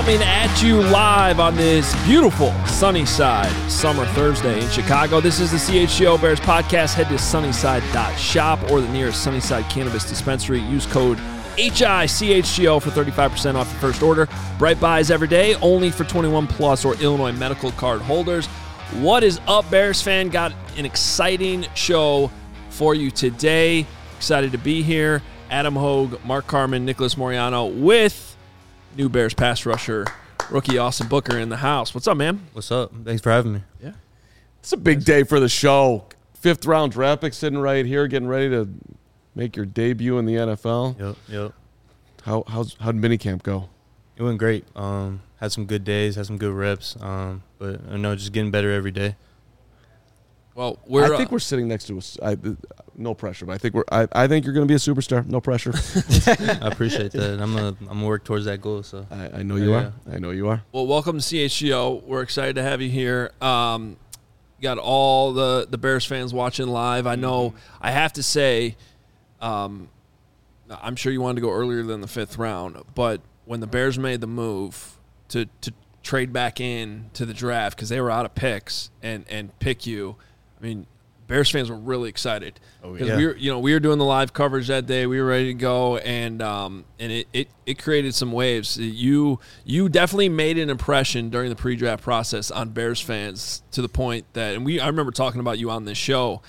coming at you live on this beautiful Sunnyside summer Thursday in Chicago. This is the CHGO Bears podcast. Head to sunnyside.shop or the nearest Sunnyside Cannabis Dispensary. Use code HICHGO for 35% off your first order. Bright buys every day, only for 21 plus or Illinois medical card holders. What is up, Bears fan? Got an exciting show for you today. Excited to be here. Adam Hogue, Mark Carman, Nicholas Moriano with new Bears pass rusher, rookie Austin Booker in the house. What's up, man? What's up? Thanks for having me. Yeah. It's a big day for the show. 5th round draft pick sitting right here, getting ready to make your debut in the NFL. Yep. How'd minicamp go? It went great. Had some good days, had some good reps. But I know just getting better every day. Well, I think we're sitting next to us. No pressure, but I think you're going to be a superstar. No pressure. I appreciate that. I'm gonna work towards that goal. So I know you are. I know you are. Well, welcome to CHGO. We're excited to have you here. Got all the Bears fans watching live. I know. I have to say, I'm sure you wanted to go earlier than the 5th round, but when the Bears made the move to trade back in to the draft because they were out of picks and pick you, I mean, Bears fans were really excited because we were doing the live coverage that day. We were ready to go, and it created some waves. You definitely made an impression during the pre-draft process on Bears fans to the point that, I remember talking about you on this show.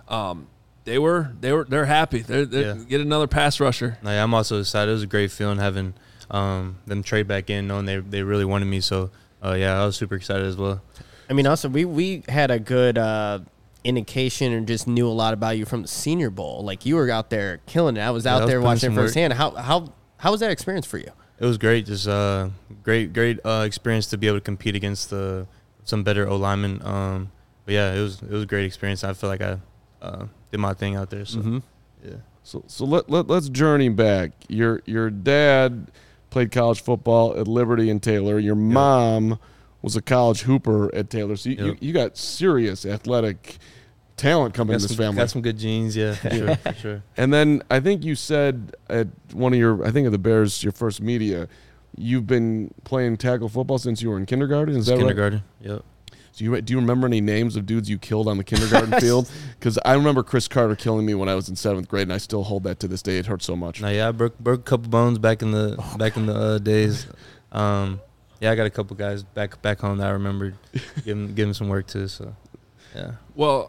They're happy. They're get another pass rusher. I'm also excited. It was a great feeling having them trade back in, knowing they really wanted me. So I was super excited as well. I mean, also we had a good indication and just knew a lot about you from the Senior Bowl. Like, you were out there killing it. I was out there watching it firsthand. How was that experience for you? It was great. Just great experience to be able to compete against some better O-linemen. But yeah, it was a great experience. I feel like I did my thing out there. So yeah. So let's journey back. Your dad played college football at Liberty and Taylor. Your mom was a college hooper at Taylor. So you got serious athletic talent coming in this family. Got some good genes, yeah, for sure. And then I think you said at one of at the Bears, your first media, you've been playing tackle football since you were in kindergarten. Is that kindergarten? Right? Yep. So do you remember any names of dudes you killed on the kindergarten field? Because I remember Chris Carter killing me when I was in 7th grade, and I still hold that to this day. It hurts so much. I broke a couple bones back in the days. I got a couple guys back home that I remember giving some work to. So, yeah. Well,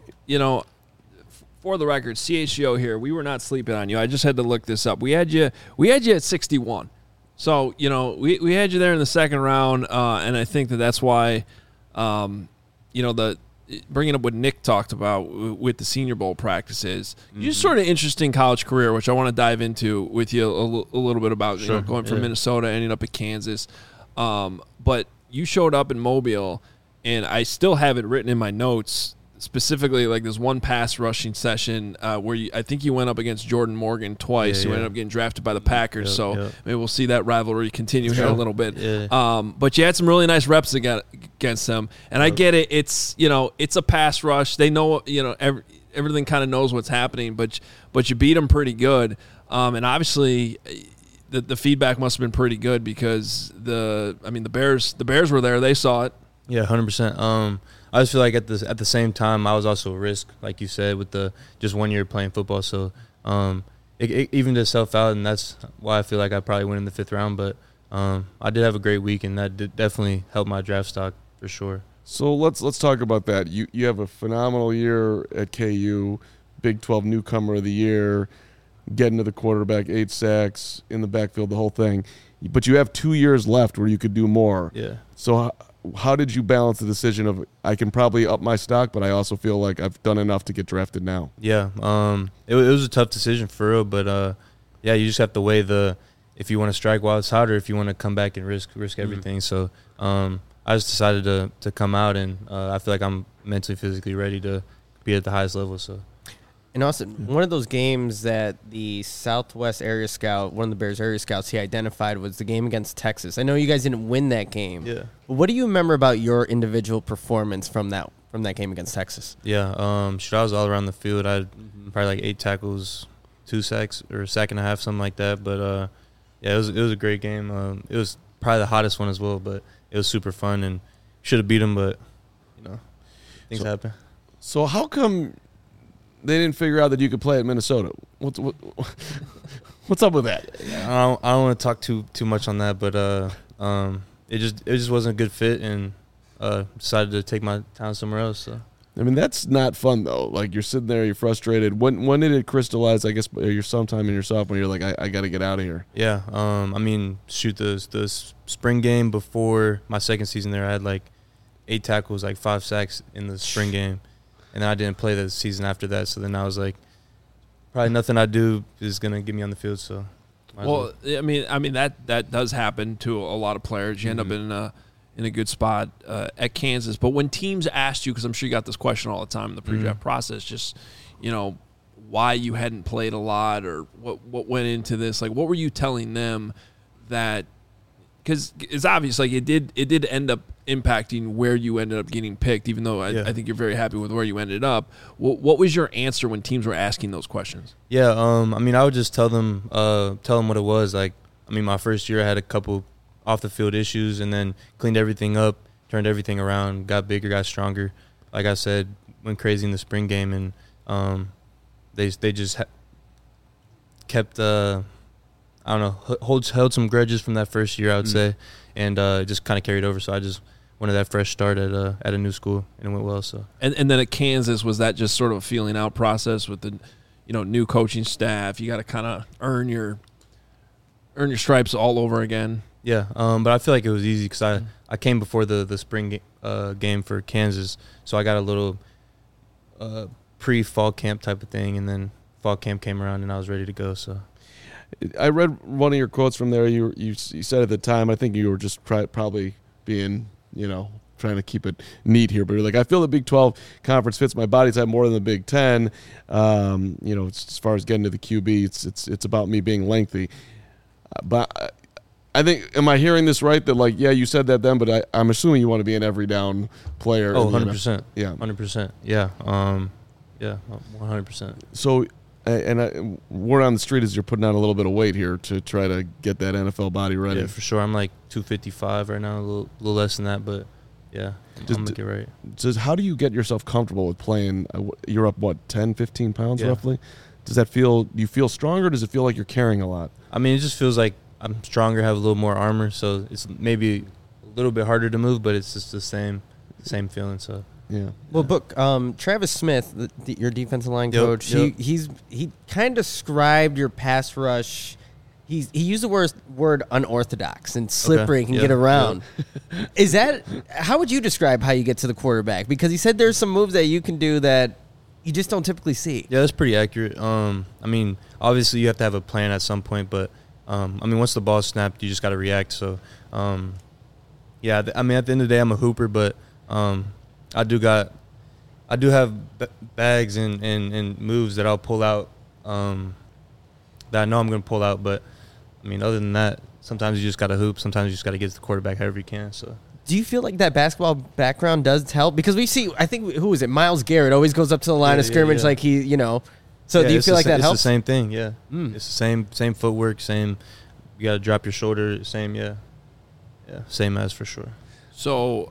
for the record, CHGO here, we were not sleeping on you. I just had to look this up. We had you at 61. So, we had you there in the 2nd round, and I think that's why, the bringing up what Nick talked about with the Senior Bowl practices, you just sort of interesting college career, which I want to dive into with you a little bit about, sure. Going from Minnesota, ending up at Kansas. But you showed up in Mobile, and I still have it written in my notes, specifically like this one pass rushing session where I think you went up against Jordan Morgan twice. You ended up getting drafted by the Packers, maybe we'll see that rivalry continue here a little bit. Yeah. But you had some really nice reps against them, and I get it. It's it's a pass rush. They know everything kind of knows what's happening, but you beat them pretty good, and obviously. The feedback must have been pretty good because the Bears were there. They saw it. Yeah, 100%. I just feel like at the same time I was also a risk, like you said, with the just 1 year playing football. So it evened itself out, and that's why I feel like I probably went in the 5th round. But I did have a great week, and that did definitely helped my draft stock for sure. So let's talk about that. You have a phenomenal year at KU, Big 12 Newcomer of the Year. Getting to the quarterback, 8 sacks in the backfield, the whole thing. But you have 2 years left where you could do more. Yeah. So how did you balance the decision of I can probably up my stock, but I also feel like I've done enough to get drafted now? Yeah. It was a tough decision for real, but you just have to weigh if you want to strike while it's hot or if you want to come back and risk everything. So I just decided to come out, and I feel like I'm mentally, physically ready to be at the highest level. So. And also, one of those games that the Southwest area scout, one of the Bears area scouts, he identified was the game against Texas. I know you guys didn't win that game. Yeah. But what do you remember about your individual performance from that game against Texas? Yeah. I was all around the field. I had probably like 8 tackles, 2 sacks, or a sack and a half, something like that. But it was a great game. It was probably the hottest one as well. But it was super fun and should have beat them, but things happen. So how come they didn't figure out that you could play at Minnesota? What's up with that? I don't want to talk too much on that, but it just wasn't a good fit, and decided to take my talent somewhere else. So. I mean, that's not fun though. Like, you're sitting there, you're frustrated. When did it crystallize? I guess you're sometime in your sophomore. You're like, I got to get out of here. Yeah. I mean, shoot, the spring game before my second season there, I had like 8 tackles, like 5 sacks in the spring game, and then I didn't play the season after that. So then I was like, probably nothing I do is gonna get me on the field. So. Well, I mean that does happen to a lot of players. You end up in a good spot at Kansas. But when teams asked you, because I'm sure you got this question all the time in the pre-draft process, just, why you hadn't played a lot or what went into this, like what were you telling them that, because it's obvious, like it did end up impacting where you ended up getting picked, even though I think you're very happy with where you ended up. What was your answer when teams were asking those questions? Yeah, I mean, I would just tell them what it was. Like, I mean, my first year I had a couple off the field issues, and then cleaned everything up, turned everything around, got bigger, got stronger. Like I said, went crazy in the spring game, and they just kept I don't know, held some grudges from that first year, I would say, and just kind of carried over. So I just wanted that fresh start at a new school, and it went well. So and then at Kansas, was that just sort of a feeling out process with the new coaching staff? You got to kind of earn your stripes all over again. Yeah, but I feel like it was easy because I came before the spring game for Kansas, so I got a little pre-fall camp type of thing, and then fall camp came around and I was ready to go. So I read one of your quotes from there. You said at the time, I think you were just probably being, trying to keep it neat here, but you're like, I feel the Big 12 conference fits my body type more than the Big 10. As far as getting to the QB, it's about me being lengthy. But I think, am I hearing this right? That, like, yeah, you said that then, but I'm assuming you want to be an every down player. Oh, 100%. Yeah. 100%. Yeah. Yeah, 100%. So, word on the street is you're putting on a little bit of weight here to try to get that NFL body ready. Yeah, for sure. I'm like 255 right now, a little less than that, but yeah, I'm going to get right. Just how do you get yourself comfortable with playing? You're up, 10, 15 pounds roughly? Do you feel stronger? Does it feel like you're carrying a lot? I mean, it just feels like I'm stronger, have a little more armor, so it's maybe a little bit harder to move, but it's just the same feeling. So yeah. Well, Travis Smith, your defensive line coach, he kind of described your pass rush. He used the word unorthodox and slippery and can get around. Yeah. Is that how would you describe how you get to the quarterback? Because he said there's some moves that you can do that you just don't typically see. Yeah, that's pretty accurate. I mean, obviously you have to have a plan at some point, but once the ball's snapped, you just got to react. So, yeah, I mean, at the end of the day, I'm a hooper, but I do have bags and moves that I'll pull out that I know I'm going to pull out. But, I mean, other than that, sometimes you just got to hoop. Sometimes you just got to get to the quarterback however you can. So. Do you feel like that basketball background does help? Because we see, I think, who is it? Myles Garrett always goes up to the line of scrimmage like he, So do you feel like that helps? It's the same thing, yeah. It's the same footwork, same. You got to drop your shoulder, same, yeah, same as for sure. So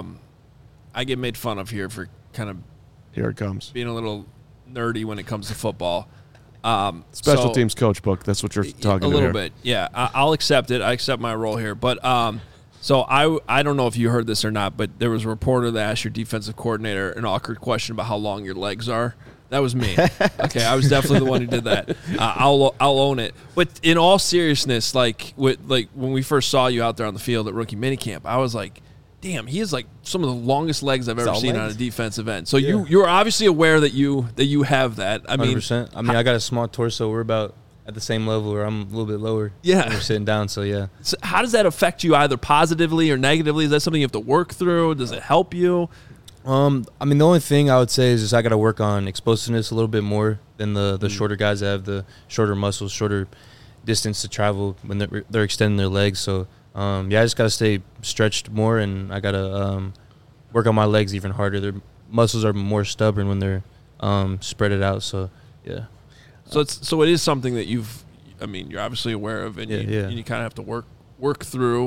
I get made fun of here for kind of here it comes being a little nerdy when it comes to football. Special teams coach book. That's what you're talking about. A little bit, yeah. I'll accept it. I accept my role here, but so I don't know if you heard this or not, but there was a reporter that asked your defensive coordinator an awkward question about how long your legs are. That was me. Okay, I was definitely the one who did that. I'll own it. But in all seriousness, like when we first saw you out there on the field at rookie minicamp, I was like, damn, he has like some of the longest legs I've ever seen on a defensive end. So you're obviously aware that you have that. I mean, 100%. I mean, I got a small torso. We're about at the same level, or I'm a little bit lower. Yeah, we're sitting down. So yeah. So how does that affect you, either positively or negatively? Is that something you have to work through? Does it help you? I mean, the only thing I would say is just I got to work on explosiveness a little bit more than the shorter guys that have the shorter muscles, shorter distance to travel when they're extending their legs. So, I just got to stay stretched more, and I got to work on my legs even harder. Their muscles are more stubborn when they're spread it out. So, yeah. So it is something that you're obviously aware of, and you kind of have to work through.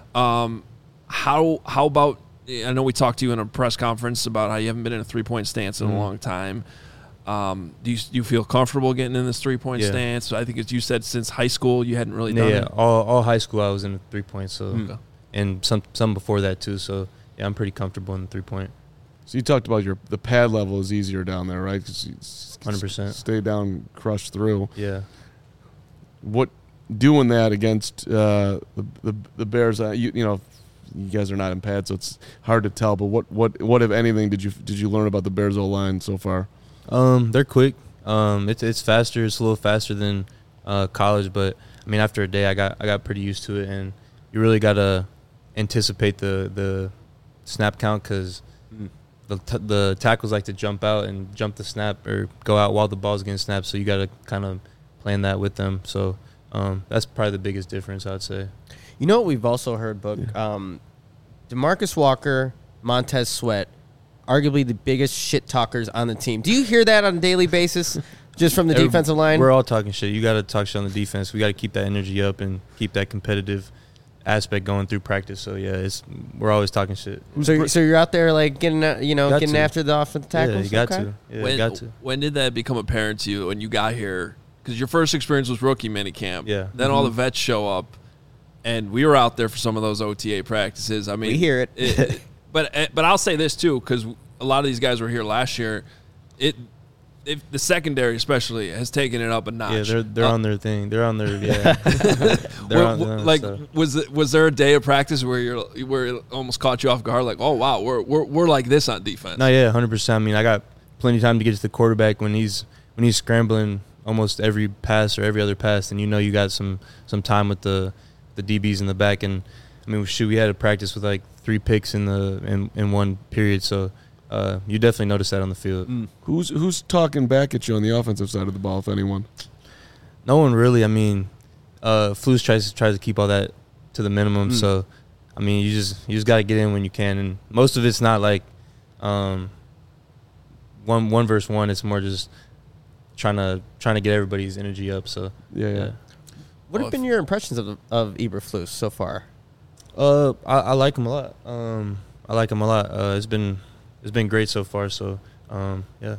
How about? I know we talked to you in a press conference about how you haven't been in a 3-point stance in a long time. Do you feel comfortable getting in this 3-point stance? I think, as you said, since high school you hadn't really done it. Yeah, all high school I was in a 3-point, so and some before that too. So yeah, I'm pretty comfortable in the 3-point. So you talked about the pad level is easier down there, right? 100%. Stay down, crush through. Yeah. What doing that against the Bears? You guys are not in pads, so it's hard to tell. But what if anything did you learn about the Bears O-line so far? They're quick. It's faster. It's a little faster than college, but I mean, after a day, I got pretty used to it, and you really gotta anticipate the snap count because the tackles like to jump out and jump the snap or go out while the ball's getting snapped. So you gotta kind of plan that with them. So that's probably the biggest difference, I'd say. You know what we've also heard, Book? DeMarcus Walker, Montez Sweat, arguably the biggest shit talkers on the team. Do you hear that on a daily basis just from the defensive line? We're all talking shit. You got to talk shit on the defense. We got to keep that energy up and keep that competitive aspect going through practice. So, yeah, we're always talking shit. So you're out there, like, getting after the offensive tackles? Yeah, you got to. Yeah, you got to. When did that become apparent to you when you got here? Because your first experience was rookie minicamp. Yeah. Then all the vets show up. And we were out there for some of those OTA practices. I mean, we hear it. But I'll say this too, because a lot of these guys were here last year. The secondary especially has taken it up a notch. Yeah, they're on their thing. They're on their Was there a day of practice where it almost caught you off guard? Like, oh wow, we're like this on defense. No, yeah, 100%. I mean, I got plenty of time to get to the quarterback when he's scrambling almost every pass or every other pass, and you got some time with the DBs in the back. And I mean, we had to practice with like 3 picks in one period, so you definitely notice that on the field. Who's talking back at you on the offensive side of the ball, if anyone? No one really. I mean, Flus tries to keep all that to the minimum. So I mean, you just got to get in when you can, and most of it's not like one versus one. It's more just trying to get everybody's energy up. So yeah. What have been your impressions of Eberflus so far? I like him a lot. I like him a lot. It's been great so far. So yeah.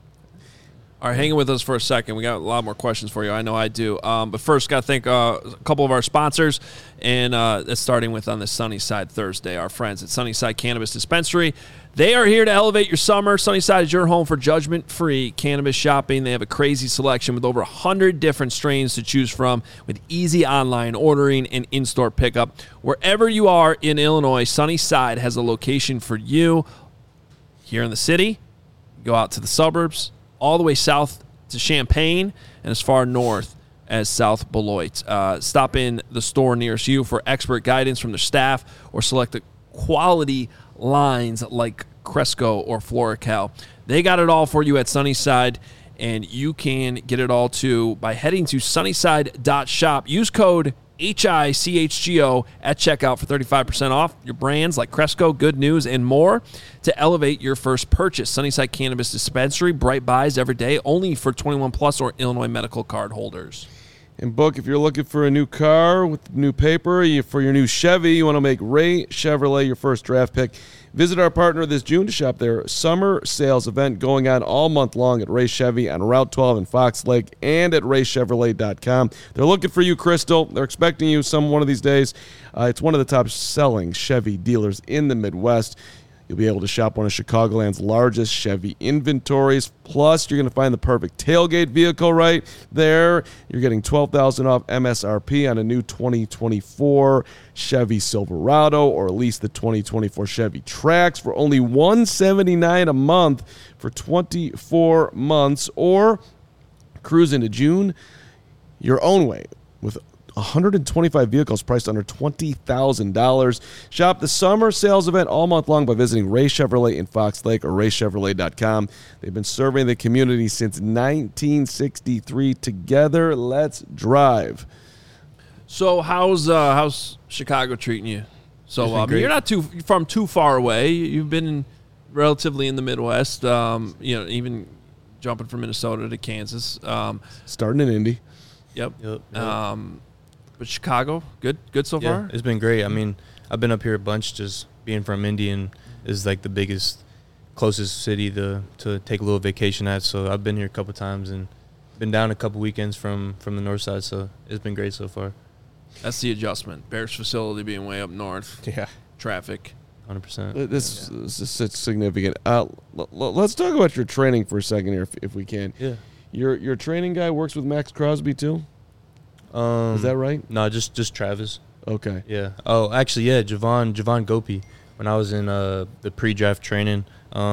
All right, hanging with us for a second. We got a lot more questions for you. I know I do. But first, got to thank a couple of our sponsors, and that's starting with on the Sunnyside Thursday, our friends at Sunnyside Cannabis Dispensary. They are here to elevate your summer. Sunnyside is your home for judgment-free cannabis shopping. They have a crazy selection with over 100 different strains to choose from with easy online ordering and in-store pickup. Wherever you are in Illinois, Sunnyside has a location for you. Here in the city, go out to the suburbs, all the way south to Champaign, and as far north as South Beloit. Stop in the store nearest you for expert guidance from the staff or select the quality lines like Cresco or Floracal. They got it all for you at Sunnyside, and you can get it all too by heading to sunnyside.shop. Use code HICHGO at checkout for 35% off your brands like Cresco, Good News, and more to elevate your first purchase. Sunnyside Cannabis Dispensary, bright buys every day, only for 21 plus or Illinois medical card holders. And Book, if you're looking for a new car with new paper, for your new Chevy, you want to make Ray Chevrolet your first draft pick, visit our partner this June to shop their summer sales event going on all month long at Ray Chevy on Route 12 in Fox Lake and at raychevrolet.com. They're looking for you, Crystal. They're expecting you one of these days. It's one of the top-selling Chevy dealers in the Midwest. You'll be able to shop one of Chicagoland's largest Chevy inventories. Plus, you're going to find the perfect tailgate vehicle right there. You're getting $12,000 off MSRP on a new 2024 Chevy Silverado, or at least the 2024 Chevy Trax for only $179 a month for 24 months, or cruise into June your own way with 125 vehicles priced under $20,000. Shop the summer sales event all month long by visiting Ray Chevrolet in Fox Lake or raychevrolet.com. They've been serving the community since 1963. Together, let's drive. So how's Chicago treating you? So I mean, you're not too far away. You've been relatively in the Midwest. Even jumping from Minnesota to Kansas. Starting in Indy. Yep. But Chicago, good so far? It's been great. I mean, I've been up here a bunch. Just being from Indy and is like the biggest, closest city to take a little vacation at. So I've been here a couple times and been down a couple weekends from the north side. So it's been great so far. That's the adjustment. Bears facility being way up north. Yeah. Traffic. 100%. This is significant. Let's talk about your training for a second here, if we can. Yeah. Your training guy works with Max Crosby too? Is that right? No, just Travis. Okay. Yeah. Oh, actually, yeah, Javon Gopi. When I was in the pre-draft training,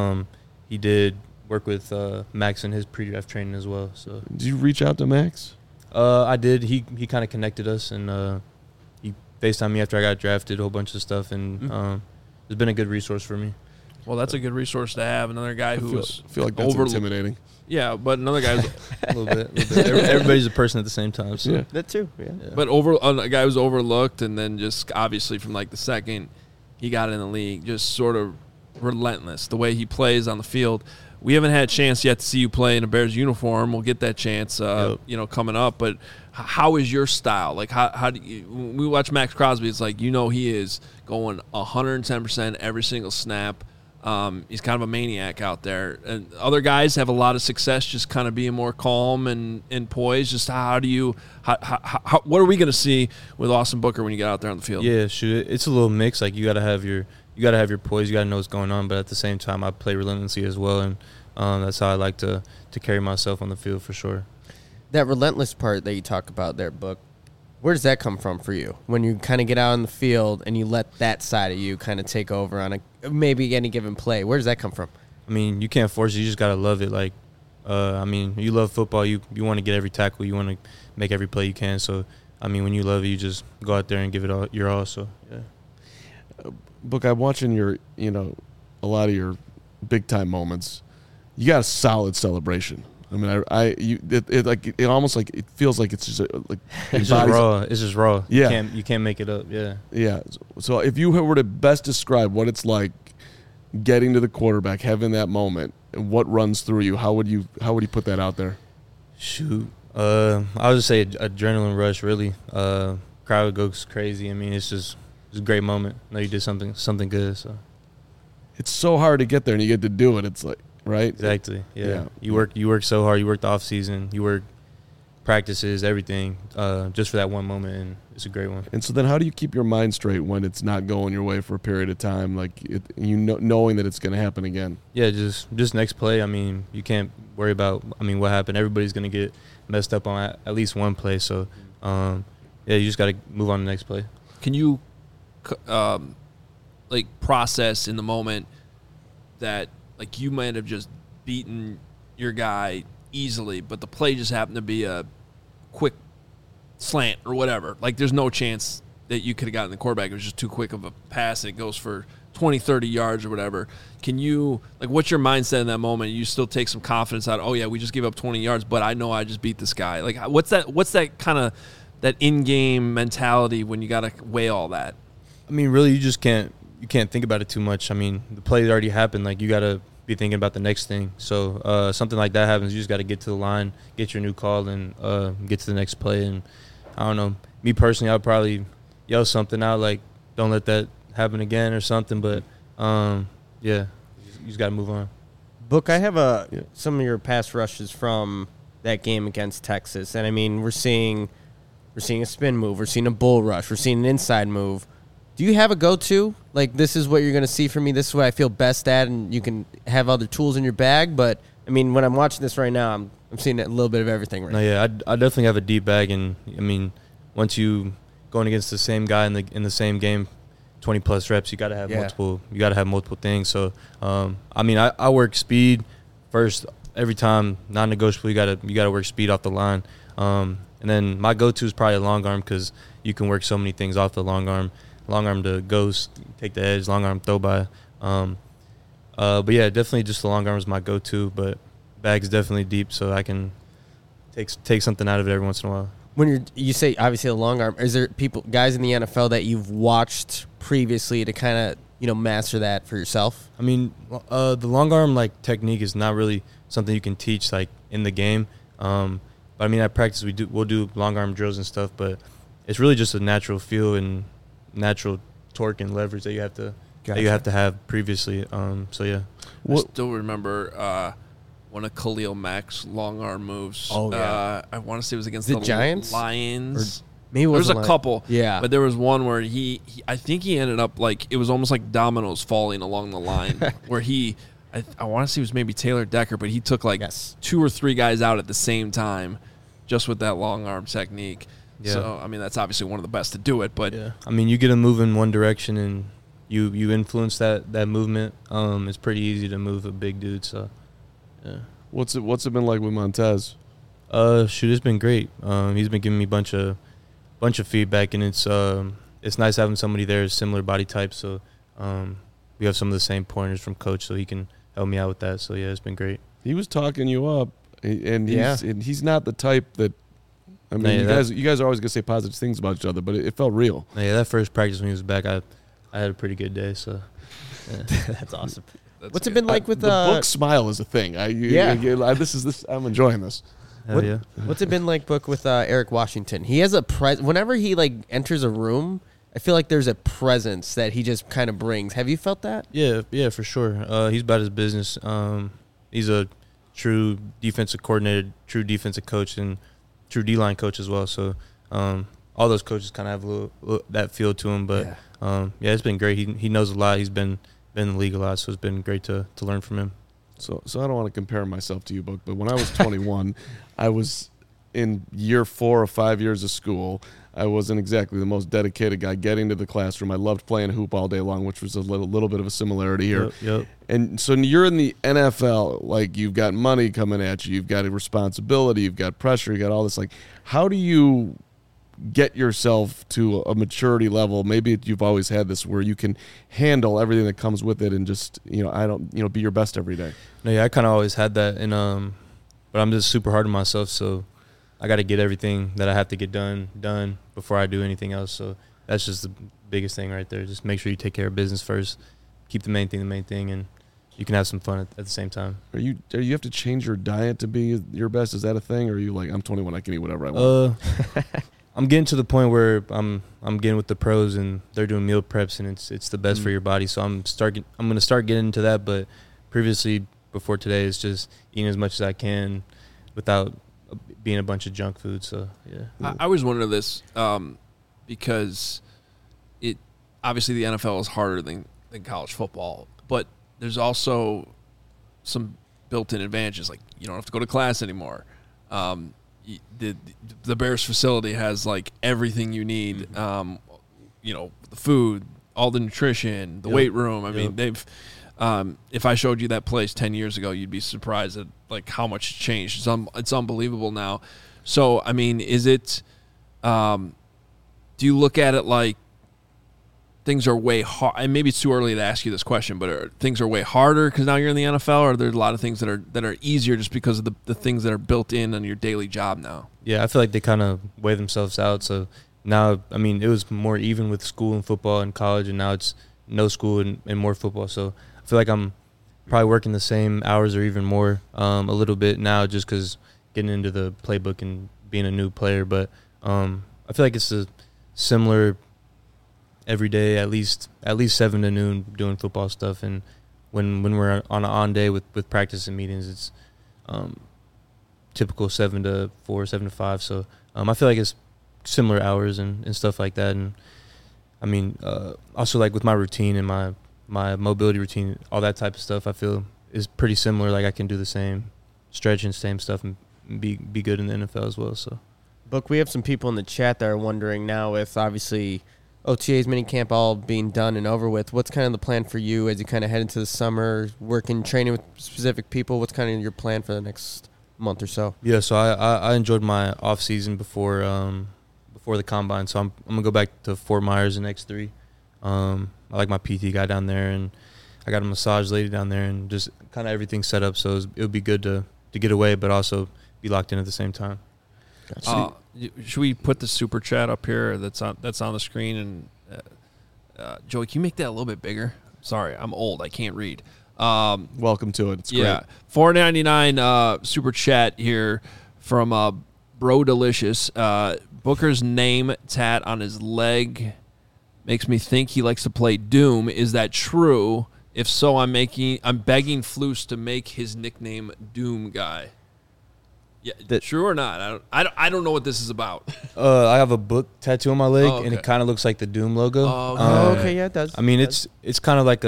he did work with Max in his pre-draft training as well. So. Did you reach out to Max? I did. He kind of connected us, and he FaceTimed me after I got drafted, a whole bunch of stuff, and it's been a good resource for me. Well, that's a good resource to have. Another guy who feel like that's intimidating. Yeah, but another guy who's a little bit. Everybody's a person at the same time. So. Yeah. That too. Yeah. But a guy who's overlooked, and then just obviously from like the second he got in the league, just sort of relentless. The way he plays on the field. We haven't had a chance yet to see you play in a Bears uniform. We'll get that chance, coming up. But how is your style? Like, how do you? When we watch Max Crosby, it's like he is going 110% every single snap. He's kind of a maniac out there. And other guys have a lot of success just kind of being more calm and poised. Just how do you? What are we going to see with Austin Booker when you get out there on the field? Yeah, shoot, it's a little mix. Like you got to have your poise. You got to know what's going on. But at the same time, I play relentlessly as well, and that's how I like to carry myself on the field for sure. That relentless part that you talk about there, Book, where does that come from for you? When you kind of get out on the field and you let that side of you kind of take over on maybe any given play, where does that come from? I mean, you can't force it. You just got to love it. Like, you love football. You want to get every tackle. You want to make every play you can. So, I mean, when you love it, you just go out there and give it your all. So, yeah. Book, I'm watching a lot of your big-time moments. You got a solid celebration. I mean, it almost like it feels like it's just it's just raw. It's just raw. Yeah, you can't make it up. Yeah, yeah. So if you were to best describe what it's like getting to the quarterback, having that moment, and what runs through you, how would you put that out there? Shoot, I would just say adrenaline rush. Really, crowd goes crazy. I mean, it's a great moment. Know you did something good. So it's so hard to get there, and you get to do it. It's like. Right? Exactly. Yeah. You work so hard. You work the off season. You work practices, everything, just for that one moment, and it's a great one. And so then, how do you keep your mind straight when it's not going your way for a period of time, like knowing that it's going to happen again? Yeah, just next play. I mean, you can't worry about what happened. Everybody's going to get messed up on at least one play. So, you just got to move on to the next play. Can you, process in the moment that? Like, you might have just beaten your guy easily, but the play just happened to be a quick slant or whatever. Like, there's no chance that you could have gotten the quarterback. It was just too quick of a pass, and it goes for 20, 30 yards or whatever. Can you, what's your mindset in that moment? You still take some confidence out, oh, yeah, we just gave up 20 yards, but I know I just beat this guy. Like, what's that kind of that in-game mentality when you got to weigh all that? I mean, really, you just can't think about it too much. I mean, the play already happened. Like, you got to be thinking about the next thing. So something like that happens, you just got to get to the line, get your new call, and get to the next play. And I don't know, me personally, I'll probably yell something out like, don't let that happen again or something. But you just got to move on. Book, I have some of your pass rushes from that game against Texas, and I mean, we're seeing a spin move, we're seeing a bull rush, we're seeing an inside move. Do you have a go-to? Like, this is what you're going to see from me. This is what I feel best at, and you can have other tools in your bag. But, I mean, when I'm watching this right now, I'm seeing a little bit of everything right now. No, yeah, I definitely have a deep bag. And, I mean, once you going against the same guy in the same game, 20-plus reps, you got to have multiple. You got to have multiple things. So, I mean, I work speed first every time, non-negotiable. You got to work speed off the line. And then my go-to is probably a long arm because you can work so many things off the long arm. Long arm to ghost, take the edge, long arm throw by. But yeah, definitely just the long arm is my go-to, but bag's definitely deep, so I can take something out of it every once in a while. When you say obviously a long arm, is there guys in the NFL that you've watched previously to kind of master that for yourself? I mean, the long arm technique is not really something you can teach in the game. But I mean, at practice we'll do long arm drills and stuff, but it's really just a natural feel and natural torque and leverage that you have to have previously. So yeah. I still remember one of Khalil Mack's long arm moves. Oh yeah. I want to say it was against the Giants, Lions. Maybe there was a couple. Yeah. But there was one where he I think he ended up like it was almost like dominoes falling along the line where I want to say it was maybe Taylor Decker, but he took like 2 or 3 guys out at the same time just with that long arm technique. Yeah. So, I mean, that's obviously one of the best to do it. But yeah. I mean, you get a move in one direction and you influence that movement. It's pretty easy to move a big dude. So, yeah. What's it been like with Montez? It's been great. He's been giving me bunch of feedback, and it's nice having somebody there similar body type. So we have some of the same pointers from coach, so he can help me out with that. So yeah, it's been great. He was talking you up, and he's not the type that. I mean, you guys are always gonna say positive things about each other, but it felt real. Yeah, that first practice when he was back, I had a pretty good day. So yeah. That's awesome. What's it been like with the book? Smile is a thing. I'm enjoying this. Yeah. What's it been like, Book, with Eric Washington? He has whenever he like enters a room, I feel like there's a presence that he just kind of brings. Have you felt that? Yeah, for sure. He's about his business. He's a true defensive coordinator, true defensive coach, and true D-line coach as well. So all those coaches kind of have a little that feel to him. But it's been great. He knows a lot. He's been in the league a lot, so it's been great to learn from him. So I don't want to compare myself to you, Book, but when I was 21, I was in year 4 or 5 years of school. I wasn't exactly the most dedicated guy getting to the classroom. I loved playing hoop all day long, which was a little bit of a similarity here. Yep. And so you're in the NFL, like you've got money coming at you, you've got a responsibility, you've got pressure, you got all this. Like, how do you get yourself to a maturity level? Maybe you've always had this where you can handle everything that comes with it and just, be your best every day. No, yeah, I kind of always had that, and but I'm just super hard on myself, so I got to get everything that I have to get done before I do anything else. So that's just the biggest thing right there. Just make sure you take care of business first, keep the main thing, and you can have some fun at the same time. Do you have to change your diet to be your best? Is that a thing, or are you like, I'm 21, I can eat whatever I want? I'm getting to the point where I'm getting with the pros and they're doing meal preps and it's the best for your body. So I'm going to start getting into that. But previously, before today, it's just eating as much as I can without being a bunch of junk food. So yeah, I always wonder this because it obviously the NFL is harder than college football, but there's also some built-in advantages, like you don't have to go to class anymore. The Bears facility has like everything you need, the food, all the nutrition, the weight room. I mean, they've if I showed you that place 10 years ago, you'd be surprised at like how much it's changed. It's unbelievable now. So, I mean, is it do you look at it like things are way hard? And maybe it's too early to ask you this question, but things are way harder because now you're in the NFL, or are there a lot of things that are easier just because of the things that are built in on your daily job now? Yeah, I feel like they kind of weigh themselves out. So now, I mean, it was more even with school and football and college, and now it's no school and more football. So I feel like I'm probably working the same hours or even more a little bit now just because getting into the playbook and being a new player. But I feel like it's a similar every day, at least 7 to noon doing football stuff. And when we're on an on day with practice and meetings, it's typical 7 to 4, 7 to 5. So I feel like it's similar hours and stuff like that. And I mean, also like with my routine and my mobility routine, all that type of stuff, I feel is pretty similar. Like I can do the same stretch and same stuff and be good in the NFL as well. So, Book, we have some people in the chat that are wondering now, with obviously OTAs, minicamp all being done and over with, what's kind of the plan for you as you kind of head into the summer, working, training with specific people? What's kind of your plan for the next month or so? Yeah, so I enjoyed my off season before the combine, so I'm gonna go back to Fort Myers in X3. I like my PT guy down there, and I got a massage lady down there, and just kind of everything set up. So it would be good to get away, but also be locked in at the same time. Gotcha. Should we put the super chat up here that's on the screen? And Joey, can you make that a little bit bigger? Sorry, I'm old. I can't read. Welcome to it. It's great. Yeah, $4.99 super chat here from Bro Delicious. Booker's name tat on his leg makes me think he likes to play Doom. Is that true? If so, I'm begging Flus to make his nickname Doom Guy. Yeah, true or not? I don't know what this is about. I have a book tattoo on my leg, and it kind of looks like the Doom logo. Okay, yeah, it does. I mean, it's kind of like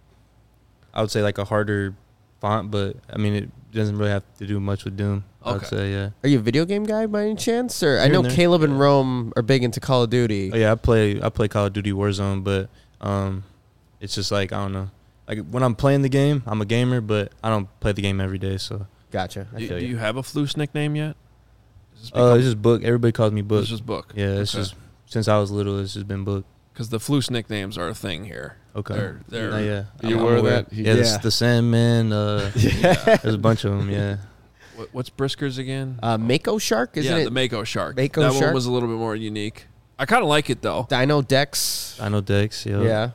I would say like a harder font, but I mean, it doesn't really have to do much with Doom. I would say, yeah. Are you a video game guy by any chance? Or I know Caleb and Rome are big into Call of Duty. Oh, yeah, I play Call of Duty Warzone, but it's just like, I don't know. Like when I'm playing the game, I'm a gamer, but I don't play the game every day, so. Gotcha. Do you have a Flus nickname yet? It's just Book. Everybody calls me Book. It's just Book. Yeah, it's just since I was little, it's just been Book. Because the Flus nicknames are a thing here. Okay. Are you aware of that? Yeah, the Sandman. There's a bunch of them. Yeah. What's Brisker's again? Mako Shark, isn't it? Yeah, the Mako Shark. That one was a little bit more unique. I kind of like it though. Dino Dex. Yeah.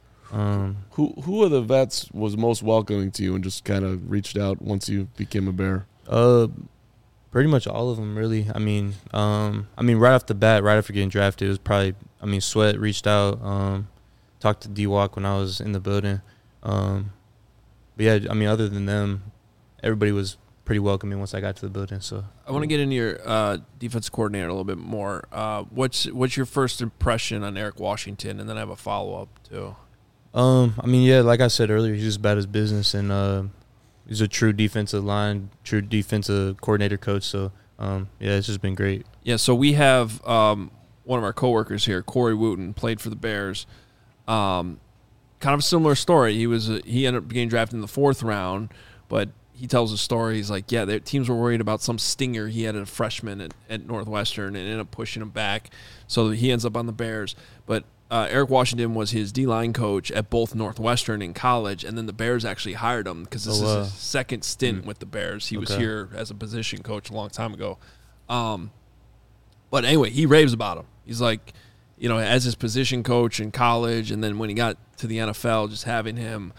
Who of the vets was most welcoming to you and just kind of reached out once you became a Bear? Pretty much all of them, really. I mean, right off the bat, right after getting drafted, it was probably. I mean, Sweat reached out, talked to D-Walk when I was in the building. But yeah, I mean, other than them, everybody was pretty welcoming once I got to the building. So I want to get into your defense coordinator a little bit more. What's your first impression on Eric Washington, and then I have a follow up too. I mean, yeah, like I said earlier, he's just about his business, and he's a true defensive coordinator coach. So, yeah, it's just been great. Yeah, so we have one of our coworkers here, Corey Wooten, played for the Bears. Kind of a similar story. He ended up getting drafted in the 4th round, but he tells a story. He's like, yeah, their teams were worried about some stinger he had as a freshman at Northwestern and ended up pushing him back. So he ends up on the Bears. But Eric Washington was his D-line coach at both Northwestern in college, and then the Bears actually hired him because this is his second stint with the Bears. He was here as a position coach a long time ago. But anyway, he raves about him. He's like, as his position coach in college, and then when he got to the NFL, just having him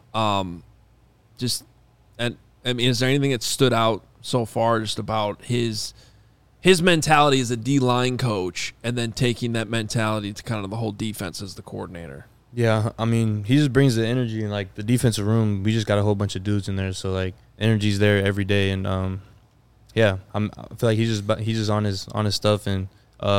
is there anything that stood out so far just about his mentality as a D-line coach and then taking that mentality to kind of the whole defense as the coordinator? Yeah, I mean, he just brings the energy in, like, the defensive room. We just got a whole bunch of dudes in there, so, like, energy's there every day. And, yeah, I feel like he's just on his stuff, and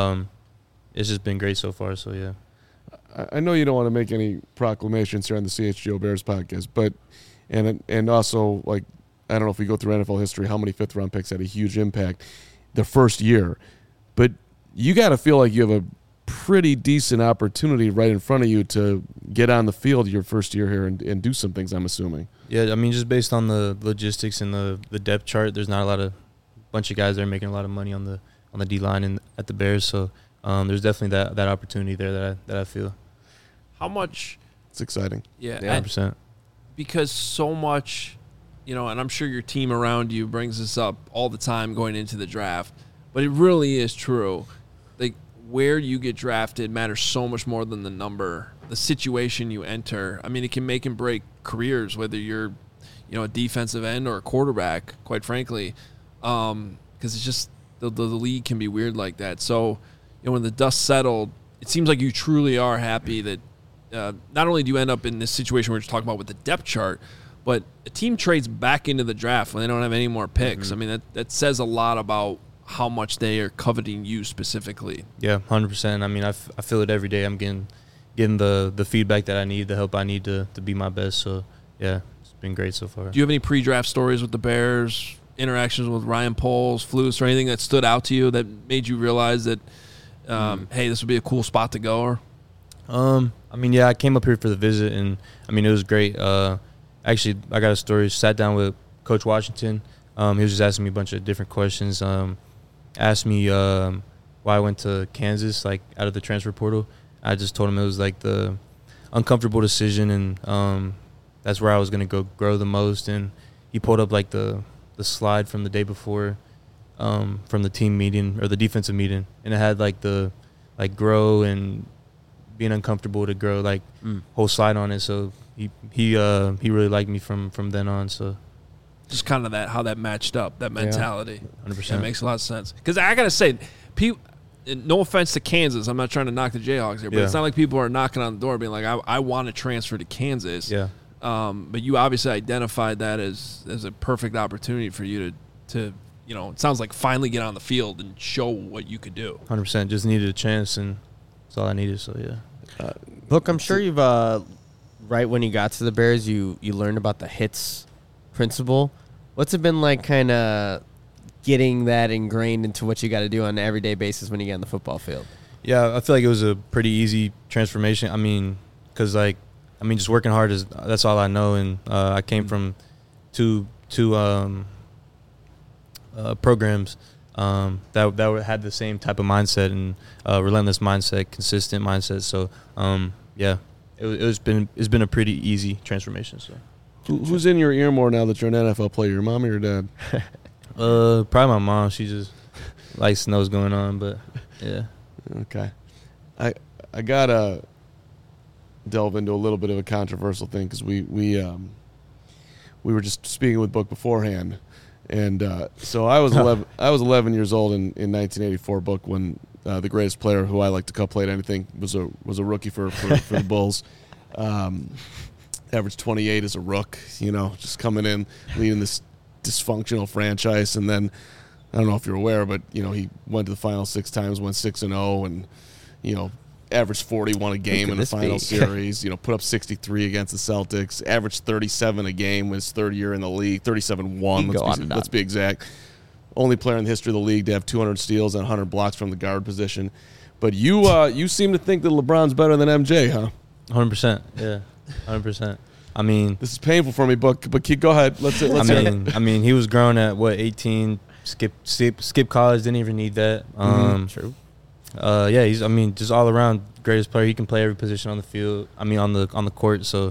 it's just been great so far, so, yeah. I know you don't want to make any proclamations here on the CHGO Bears podcast, but and also, like, I don't know if we go through NFL history, how many 5th-round picks had a huge impact the first year. But you got to feel like you have a pretty decent opportunity right in front of you to get on the field your first year here and do some things, I'm assuming. Yeah, I mean, just based on the logistics and the depth chart, there's not a bunch of guys that are making a lot of money on the D-line and at the Bears. So there's definitely that opportunity there that I feel. How much? It's exciting. Yeah, 100%. Because so much – and I'm sure your team around you brings this up all the time going into the draft, but it really is true. Like, where you get drafted matters so much more than the number, the situation you enter. I mean, it can make and break careers, whether you're, a defensive end or a quarterback, quite frankly, because it's just the league can be weird like that. So, when the dust settled, it seems like you truly are happy that not only do you end up in this situation we're just talking about with the depth chart, but a team trades back into the draft when they don't have any more picks. Mm-hmm. I mean, that says a lot about how much they are coveting you specifically. Yeah, 100%. I mean, I feel it every day. I'm getting the feedback that I need, the help I need to be my best. So, yeah, it's been great so far. Do you have any pre-draft stories with the Bears, interactions with Ryan Poles, Flus, or anything that stood out to you that made you realize that, hey, this would be a cool spot to go? I mean, yeah, I came up here for the visit, and, I mean, it was great. Actually, I got a story. Sat down with Coach Washington. He was just asking me a bunch of different questions. Asked me why I went to Kansas, like, out of the transfer portal. I just told him it was, like, the uncomfortable decision, and that's where I was going to go grow the most. And he pulled up, like, the slide from the day before from the team meeting or the defensive meeting, and it had, like, the grow and being uncomfortable to grow, like, whole slide on it. So he really liked me from then on. So just kind of how that matched up, that mentality. 100%. That makes a lot of sense. Because I gotta say, no offense to Kansas, I'm not trying to knock the Jayhawks here, but it's not like people are knocking on the door being like, I want to transfer to Kansas. Yeah. But you obviously identified that as a perfect opportunity for you to it sounds like finally get on the field and show what you could do. 100%. Just needed a chance, and that's all I needed. So yeah. Look, I'm sure you've right when you got to the Bears, you learned about the HITS principle. What's it been like, kind of getting that ingrained into what you got to do on an everyday basis when you get on the football field? Yeah, I feel like it was a pretty easy transformation. I mean, because just working hard that's all I know, and I came from two programs that had the same type of mindset and relentless mindset, consistent mindset. So it's been a pretty easy transformation. So who's in your ear more now that you're an NFL player, your mom or your dad? Probably my mom. She just likes to know what's going on, but yeah. Okay. I gotta delve into a little bit of a controversial thing because we were just speaking with Book beforehand, and so I was 11 years old in 1984. Book, when the greatest player who I like to call played anything was a rookie for the Bulls. Average 28 as a rook, just coming in leading this dysfunctional franchise, and then I don't know if you're aware, but he went to the finals 6 times, went 6-0, and averaged 41 a game in the final series. Put up 63 against the Celtics, averaged 37 a game, was third year in the league, 37-1. Let's be exact. Only player in the history of the league to have 200 steals and 100 blocks from the guard position. But you seem to think that LeBron's better than MJ, huh? 100%. Yeah, 100%. I mean, this is painful for me, but go ahead. Let's I mean, he was grown at 18. Skip college. Didn't even need that. True. He's just all around greatest player. He can play every position on the field. I mean, on the court. So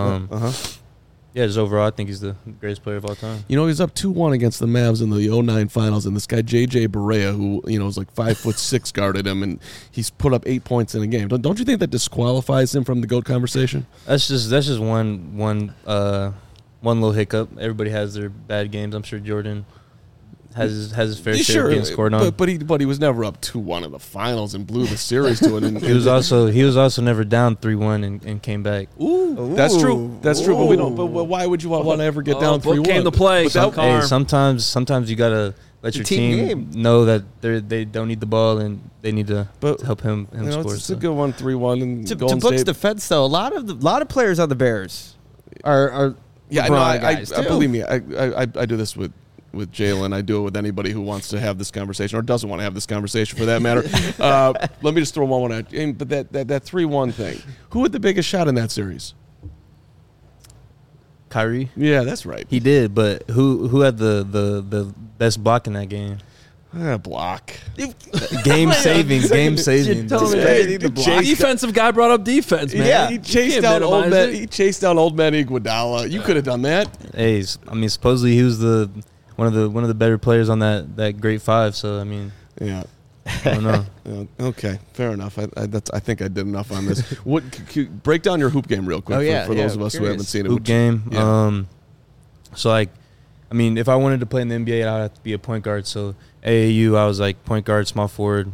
just overall, I think he's the greatest player of all time. He's up 2-1 against the Mavs in the 2009 finals, and this guy J.J. Barea, who was like 5'6", guarded him, and he's put up 8 points in a game. Don't you think that disqualifies him from the GOAT conversation? That's just one little hiccup. Everybody has their bad games. I'm sure Jordan has his fair share of getting scored on. But he was never up 2-1 in the finals and blew the series to it. And he was also never down 3-1 and came back. Ooh. That's true. But we don't. But why would you want to ever get down 3-1? Came to play. Sometimes you gotta let your team know that they don't need the ball and they need to help him score. It's a good one, 3-1. And to Book's defense, though, a lot of players on the Bears are guys too. Believe me, I do this with Jalen. I do it with anybody who wants to have this conversation or doesn't want to have this conversation for that matter. Let me just throw one at you. But that 3-1 thing, who had the biggest shot in that series? Kyrie? Yeah, that's right. He did, but who had the best block in that game? Block. Game saving. Defensive guy brought up defense, man. Yeah, he chased down old man Iguodala. You could have done that. Hey, supposedly he was one of the better players on that great five. So yeah. I don't know. Okay, fair enough. I think I did enough on this. Break down your hoop game real quick for those of us who haven't seen it. Hoop game. Yeah. If I wanted to play in the NBA, I would have to be a point guard. So AAU, I was like point guard, small forward.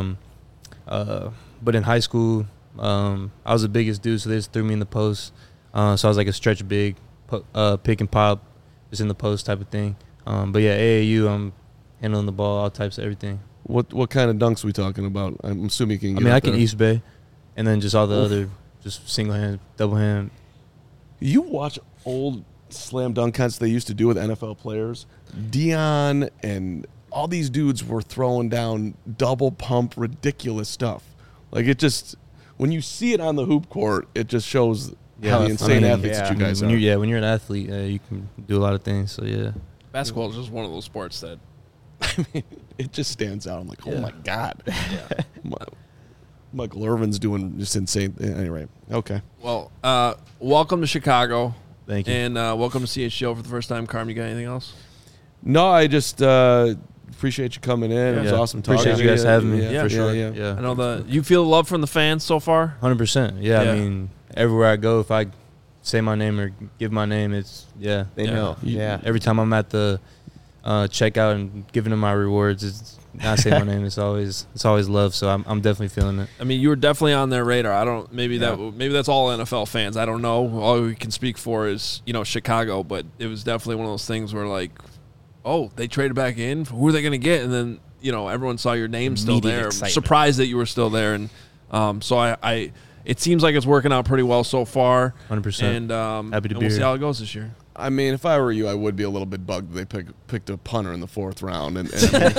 But in high school, I was the biggest dude, so they just threw me in the post. So I was like a stretch big, pick and pop, just in the post type of thing. But yeah, AAU, I'm handling the ball, all types of everything. What kind of dunks are we talking about? I'm assuming you can I can East Bay, and then just all the other, just single hand, double hand. You watch old slam dunk contests they used to do with NFL players. Dion and all these dudes were throwing down double pump, ridiculous stuff. Like it just, when you see it on the hoop court, it just shows how insane athletes that you guys are. When you're an athlete, you can do a lot of things. So yeah, basketball is just one of those sports that, it just stands out. I'm like, oh my God. Yeah. Michael Irvin's doing just insane. Anyway, okay. Well, welcome to Chicago. Thank you. And welcome to CHGO for the first time. Carm, you got anything else? No, I just appreciate you coming in. It was awesome talking to you. Appreciate you guys having me. Yeah, for sure. Yeah. I know you feel the love from the fans so far? 100%. Yeah, everywhere I go, if I say my name or give my name, it's, they know. Yeah. Every time I'm at the checkout and giving them my rewards. It's not saying my name. It's always love. So I'm definitely feeling it. I mean, you were definitely on their radar. Maybe that's all NFL fans. I don't know. All we can speak for is Chicago, but it was definitely one of those things where like, oh, they traded back in. Who are they going to get? And then everyone saw your name still there. Excitement. Surprised that you were still there, and so I it seems like it's working out pretty well so far. 100%. And happy to be we'll here. see how it goes this year. I mean, if I were you, I would be a little bit bugged that they picked a punter in the 4th round. And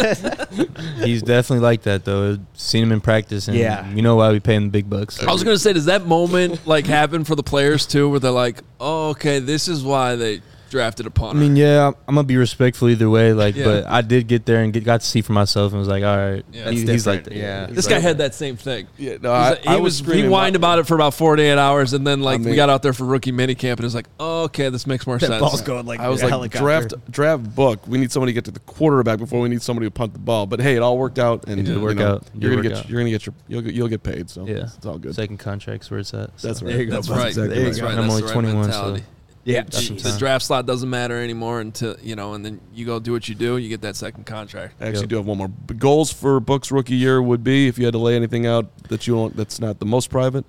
He's definitely like that, though. Seen him in practice, and you know why we pay him the big bucks. I was going to say, does that moment like happen for the players too, where they're like, "Oh, okay, this is why they drafted a punter"? I mean, yeah, I'm gonna be respectful either way. But I did get there and got to see for myself, and was like, all right, he's like that. Yeah. This guy had that same thing. Yeah, no, he whined about it for about 48 hours, and then we got out there for rookie minicamp, and it was like, oh, okay, this makes more sense. Ball's going like I was a like, helicopter. draft book. We need somebody to get to the quarterback before we need somebody to punt the ball. But hey, it all worked out, and It did work out. You'll get paid. So Yeah, it's all good. Second contract's where it's at. So. That's right. There you go. That's bud. right. exactly That's right. right. I'm That's only the right 21, mentality. so Yeah. The draft slot doesn't matter anymore until and then you go do what you do. You get that second contract. I actually do have one more. Goals for Book's rookie year would be, if you had to lay anything out that you want that's not the most private.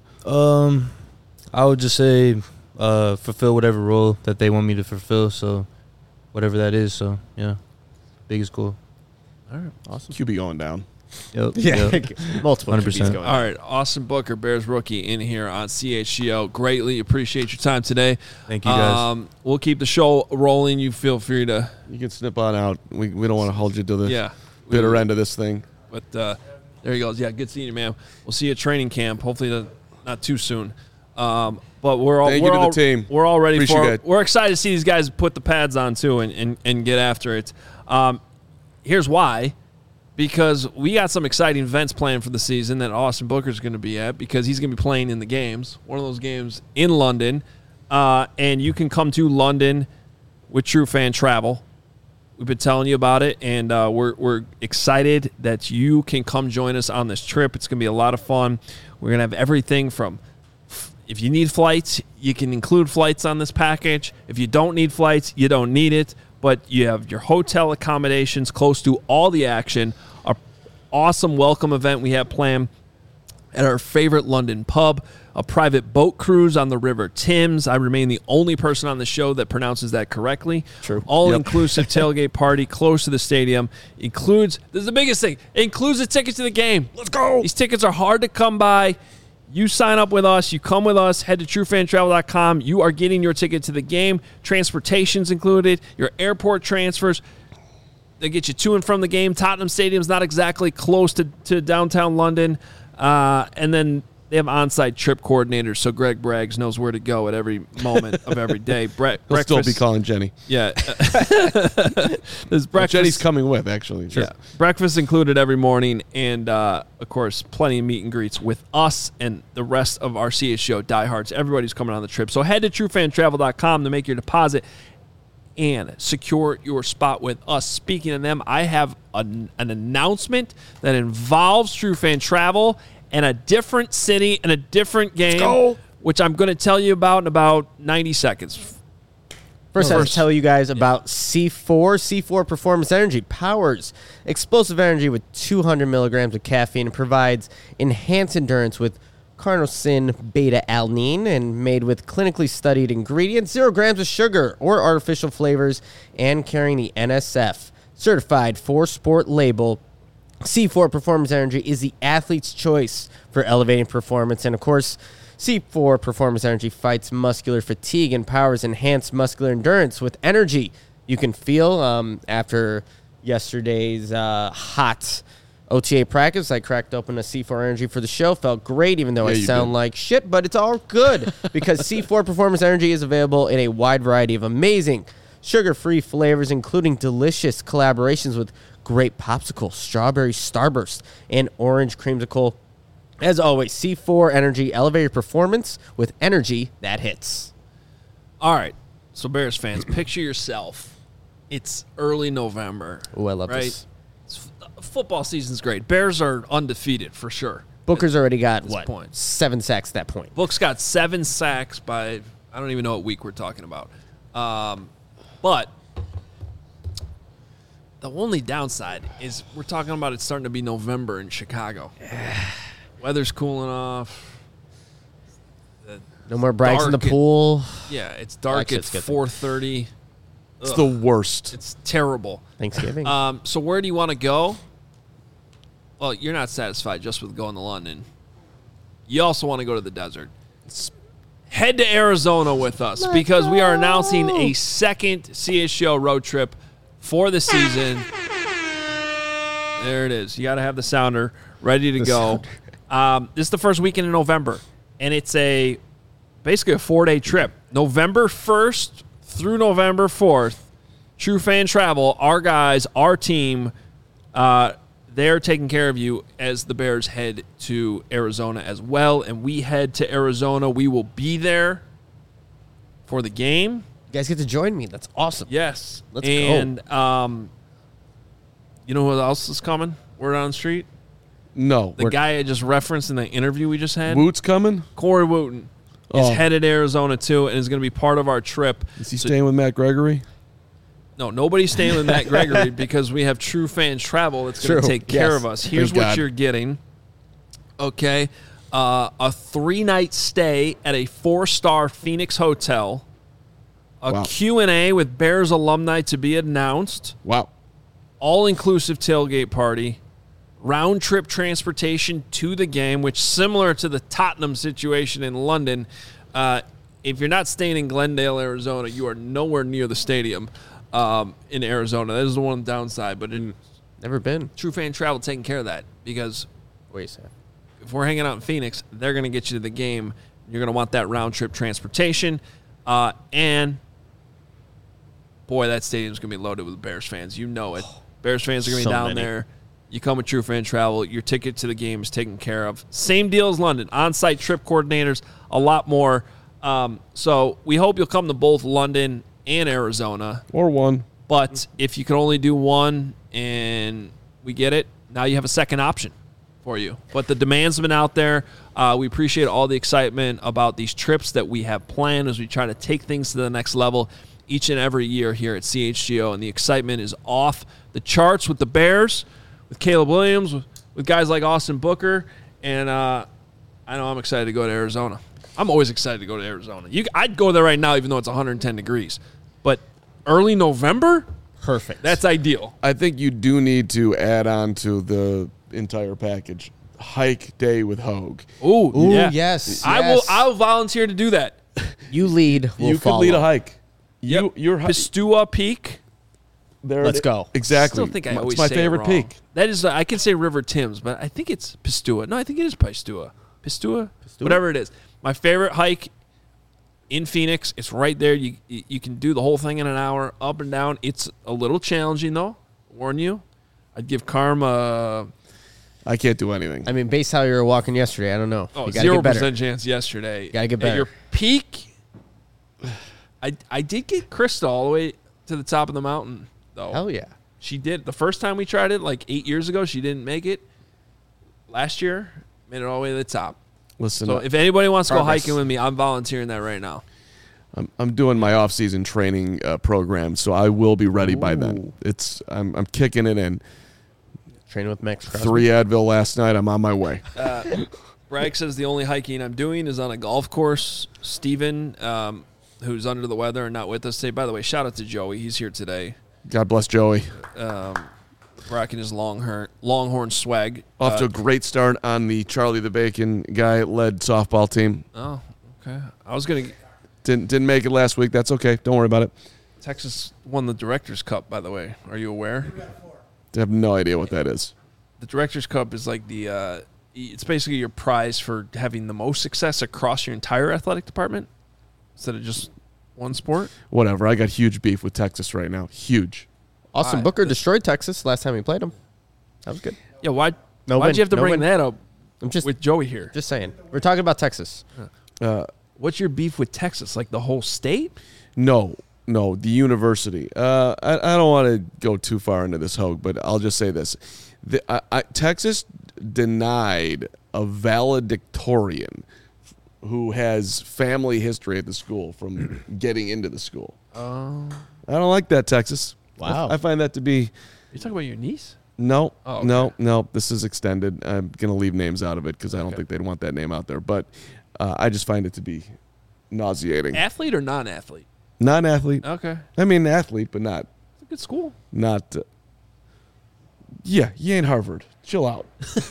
I would just say fulfill whatever role that they want me to fulfill. So whatever that is. So yeah, biggest goal. All right. Awesome. QB going down. Yep. Yeah. Yep. Multiple 100%. QBs going on. All right, Austin Booker, Bears rookie, in here on CHGO. Greatly appreciate your time today. Thank you, guys. We'll keep the show rolling. You feel free to. You can snip on out. We don't want to hold you to the Yeah. bitter end of this thing. But there he goes. Yeah, good seeing you, man. We'll see you at training camp. Hopefully, not too soon. But we're all Thank you to the team. We're all ready Appreciate for it. it. We're excited to see these guys put the pads on too and get after it. Here's why. Because we got some exciting events planned for the season that Austin Booker's going to be at, because he's going to be playing in the games, one of those games in London. And you can come to London with True Fan Travel. We've been telling you about it, and we're excited that you can come join us on this trip. It's going to be a lot of fun. We're going to have everything from, if you need flights, you can include flights on this package. If you don't need flights, you don't need it. But you have your hotel accommodations close to all the action. Our awesome welcome event we have planned at our favorite London pub. A private boat cruise on the River Thames. I remain the only person on the show that pronounces that correctly. True. All-inclusive tailgate party close to the stadium. Includes, this is the biggest thing, includes a ticket to the game. Let's go. These tickets are hard to come by. You sign up with us. You come with us. Head to truefantravel.com. You are getting your ticket to the game. Transportation's included. Your airport transfers. They get you to and from the game. Tottenham Stadium's not exactly close to downtown London. And then they have on-site trip coordinators, so Greg Braggs knows where to go at every moment of every day. He'll still be calling Jenny. Yeah. There's breakfast. Jenny's coming with, actually. Yeah. Breakfast included every morning, and, of course, plenty of meet and greets with us and the rest of our CHGO diehards. Everybody's coming on the trip. So head to truefantravel.com to make your deposit and secure your spot with us. Speaking of them, I have an announcement that involves True Fan Travel and a different city and a different game, which I'm going to tell you about in about 90 seconds. First, I have to tell you guys about C4. C4 Performance Energy powers explosive energy with 200 milligrams of caffeine and provides enhanced endurance with carnosine beta-alanine, and made with clinically studied ingredients, 0 grams of sugar or artificial flavors, and carrying the NSF certified for sport label. C4 Performance Energy is the athlete's choice for elevating performance. And, of course, C4 Performance Energy fights muscular fatigue and powers enhanced muscular endurance with energy you can feel. After yesterday's hot OTA practice, I cracked open a C4 Energy for the show. Felt great, even though I sound like shit, but it's all good because C4 Performance Energy is available in a wide variety of amazing sugar-free flavors, including delicious collaborations with grape popsicle, strawberry starburst, and orange creamsicle. As always, C4 Energy, elevated performance with energy that hits. All right. So, Bears fans, picture yourself. It's early November. Oh, I love right? this. Football season's great. Bears are undefeated for sure. Booker's already got, this point. 7 sacks at that point. Book's got 7 sacks by, I don't even know what week we're talking about. But The only downside is we're talking about it starting to be November in Chicago. Weather's cooling off. No more brags in the pool. Yeah, it's dark at 4:30. It's the worst. It's terrible. Thanksgiving. So where do you want to go? Well, you're not satisfied just with going to London. You also want to go to the desert. Head to Arizona with us because we are announcing a second CHGO road trip for the season. There it is. You got to have the sounder ready to go. This is the first weekend in November, and it's basically a 4-day trip. November 1st through November 4th, True Fan Travel, our guys, our team, they're taking care of you as the Bears head to Arizona as well, and we head to Arizona. We will be there for the game. You guys get to join me. That's awesome. Yes. Let's go. And you know who else is coming? Word on the street? No. The guy I just referenced in the interview we just had. Woot's coming? Corey Wooten is headed to Arizona, too, and is going to be part of our trip. Is he staying with Matt Gregory? No, nobody's staying with Matt Gregory because we have True Fan Travel that's going to take care of us. Here's what you're getting. Okay. A 3-night stay at a 4-star Phoenix hotel. A Q&A with Bears alumni to be announced. Wow. All-inclusive tailgate party. Round-trip transportation to the game, which similar to the Tottenham situation in London, if you're not staying in Glendale, Arizona, you are nowhere near the stadium in Arizona. That is the one downside. But never been. True Fan Travel taking care of that because wait, if we're hanging out in Phoenix, they're going to get you to the game. You're going to want that round-trip transportation. And boy, that stadium's going to be loaded with Bears fans. You know it. Bears fans are going to be down there. You come with True Fan Travel. Your ticket to the game is taken care of. Same deal as London. On-site trip coordinators, a lot more. So we hope you'll come to both London and Arizona. Or one. But if you can only do one and we get it, now you have a second option for you. But the demands have been out there. We appreciate all the excitement about these trips that we have planned as we try to take things to the next level each and every year here at CHGO. And the excitement is off the charts with the Bears, with Caleb Williams, with guys like Austin Booker. And I know I'm excited to go to Arizona. I'm always excited to go to Arizona. I'd go there right now even though it's 110 degrees. But early November? Perfect. That's ideal. I think you do need to add on to the entire package. Hike day with Hogue. Ooh, yeah. Yes. I'll volunteer to do that. You lead. You follow. could lead a hike. Yep. You're Pistua Peak. There. Let's go. Exactly. I still think I always it's my say favorite it wrong. peak. That is, I can say River Thames, but I think it's Pistua. No, I think it is Pistua. Pistua? Whatever it is. My favorite hike in Phoenix. It's right there. You can do the whole thing in an hour, up and down. It's a little challenging, though. Warn you. I'd give Karma. I can't do anything. I mean, based how you were walking yesterday, I don't know. Oh, you gotta get better. 0% chance yesterday. Gotta get better. At your peak, I did get Krista all the way to the top of the mountain, though. Hell yeah. She did. The first time we tried it, like 8 years ago, she didn't make it. Last year, made it all the way to the top. Listen, so if anybody wants to go hiking with me, I'm volunteering that right now. I'm doing my off-season training program, so I will be ready by then. I'm kicking it in. Training with Max Crosby. 3 Advil last night. I'm on my way. Bragg says the only hiking I'm doing is on a golf course. Steven, who's under the weather and not with us today. By the way, shout out to Joey. He's here today. God bless Joey. Rocking his Longhorn swag. Off to a great start on the Charlie the Bacon guy-led softball team. Oh, okay. I was going to... Didn't make it last week. That's okay. Don't worry about it. Texas won the Directors' Cup, by the way. Are you aware? I have no idea what that is. The Directors' Cup is like the it's basically your prize for having the most success across your entire athletic department instead of just one sport. Whatever. I got huge beef with Texas right now. Huge. Austin Booker destroyed Texas last time we played them. That was good. Yeah, why'd you have to bring that up with Joey here? Just saying. We're talking about Texas. What's your beef with Texas? Like the whole state? No, the university. I don't want to go too far into this, Hogue, but I'll just say this. Texas denied a valedictorian who has family history at the school from getting into the school. I don't like that, Texas. Wow. I find that to be You talking about your niece? No, Oh, okay. no. This is extended. I'm going to leave names out of it because I don't think they'd want that name out there. But I just find it to be nauseating. Athlete or non-athlete? Non-athlete. Okay. I mean, athlete, but not. It's a good school. Not. Yeah, you ain't Harvard. Chill out.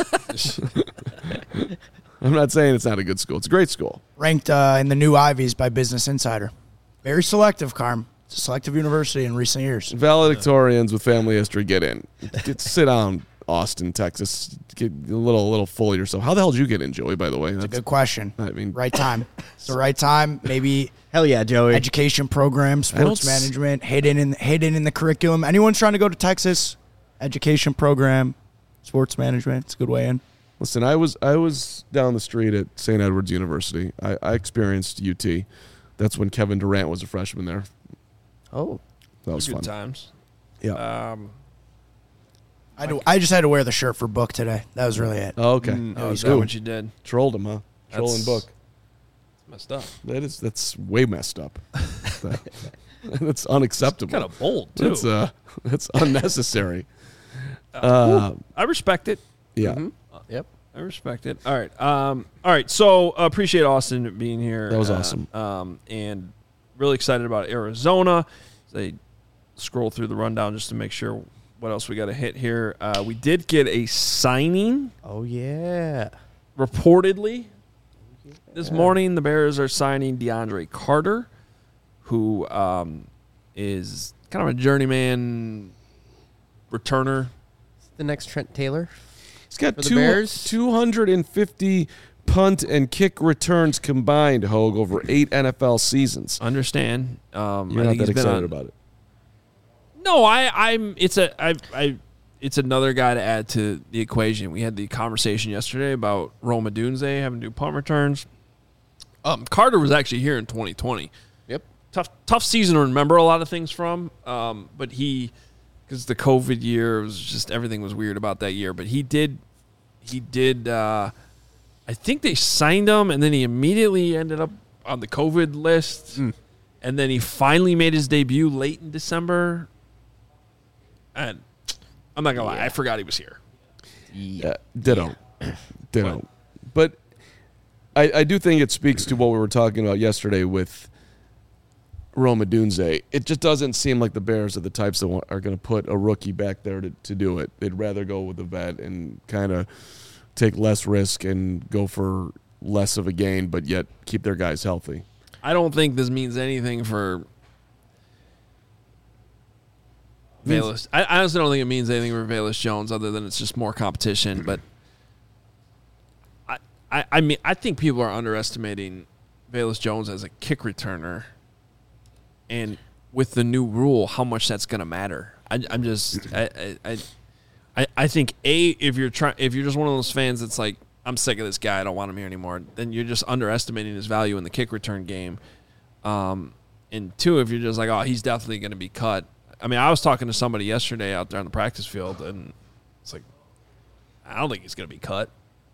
I'm not saying it's not a good school. It's a great school. Ranked in the new Ivies by Business Insider. Very selective, Carm. It's a selective university in recent years. Valedictorians with family history get in. Sit down, Austin, Texas. Get a little full of yourself. How the hell did you get in, Joey, by the way? That's a good question. I mean, right time. It's the right time. Maybe Hell yeah, Joey. education program, sports management, hidden in the curriculum. Anyone's trying to go to Texas, education program, sports management. It's a good way in. listen, I was down the street at St. Edward's University. I experienced UT. That's when Kevin Durant was a freshman there. Oh. That was Good fun. times. Yeah. I just had to wear the shirt for Book today. That was really it. Oh, okay. Oh, is that what you did? Trolled him, huh? Trolling Book. Messed up. That's way messed up. That's unacceptable. Kind of bold too. That's unnecessary. I respect it. Yeah. Mm-hmm. Yep. I respect it. All right. All right. So appreciate Austin being here. That was awesome. And really excited about Arizona. They scroll through the rundown just to make sure what else we got to hit here. We did get a signing. Oh, yeah. Reportedly, this morning the Bears are signing DeAndre Carter, who is kind of a journeyman returner. The next Trent Taylor. He's got For the Bears? 250 punt and kick returns combined, Hogue, over 8 NFL seasons. Understand? You're not that excited about it. No, it's another guy to add to the equation. We had the conversation yesterday about Rome Odunze having to do punt returns. Carter was actually here in 2020. Yep. Tough season to remember a lot of things from. But because the COVID year, it was just everything was weird about that year. But he did. I think they signed him, and then he immediately ended up on the COVID list. And then he finally made his debut late in December. And I'm not gonna lie, I forgot he was here. Yeah, ditto. Ditto. But I do think it speaks to what we were talking about yesterday with Rome Odunze. It just doesn't seem like the Bears are the types that are going to put a rookie back there to do it. They'd rather go with a vet and kind of take less risk and go for less of a gain, but yet keep their guys healthy. I don't think this means anything for Velus. I honestly don't think it means anything for Velus Jones other than it's just more competition. But I mean, I think people are underestimating Velus Jones as a kick returner, and with the new rule, how much that's going to matter. I think if you're just one of those fans that's like, I'm sick of this guy, I don't want him here anymore, then you're just underestimating his value in the kick return game. And two, if you're just like, oh, he's definitely going to be cut. I mean, I was talking to somebody yesterday out there on the practice field, and it's like, I don't think he's going to be cut.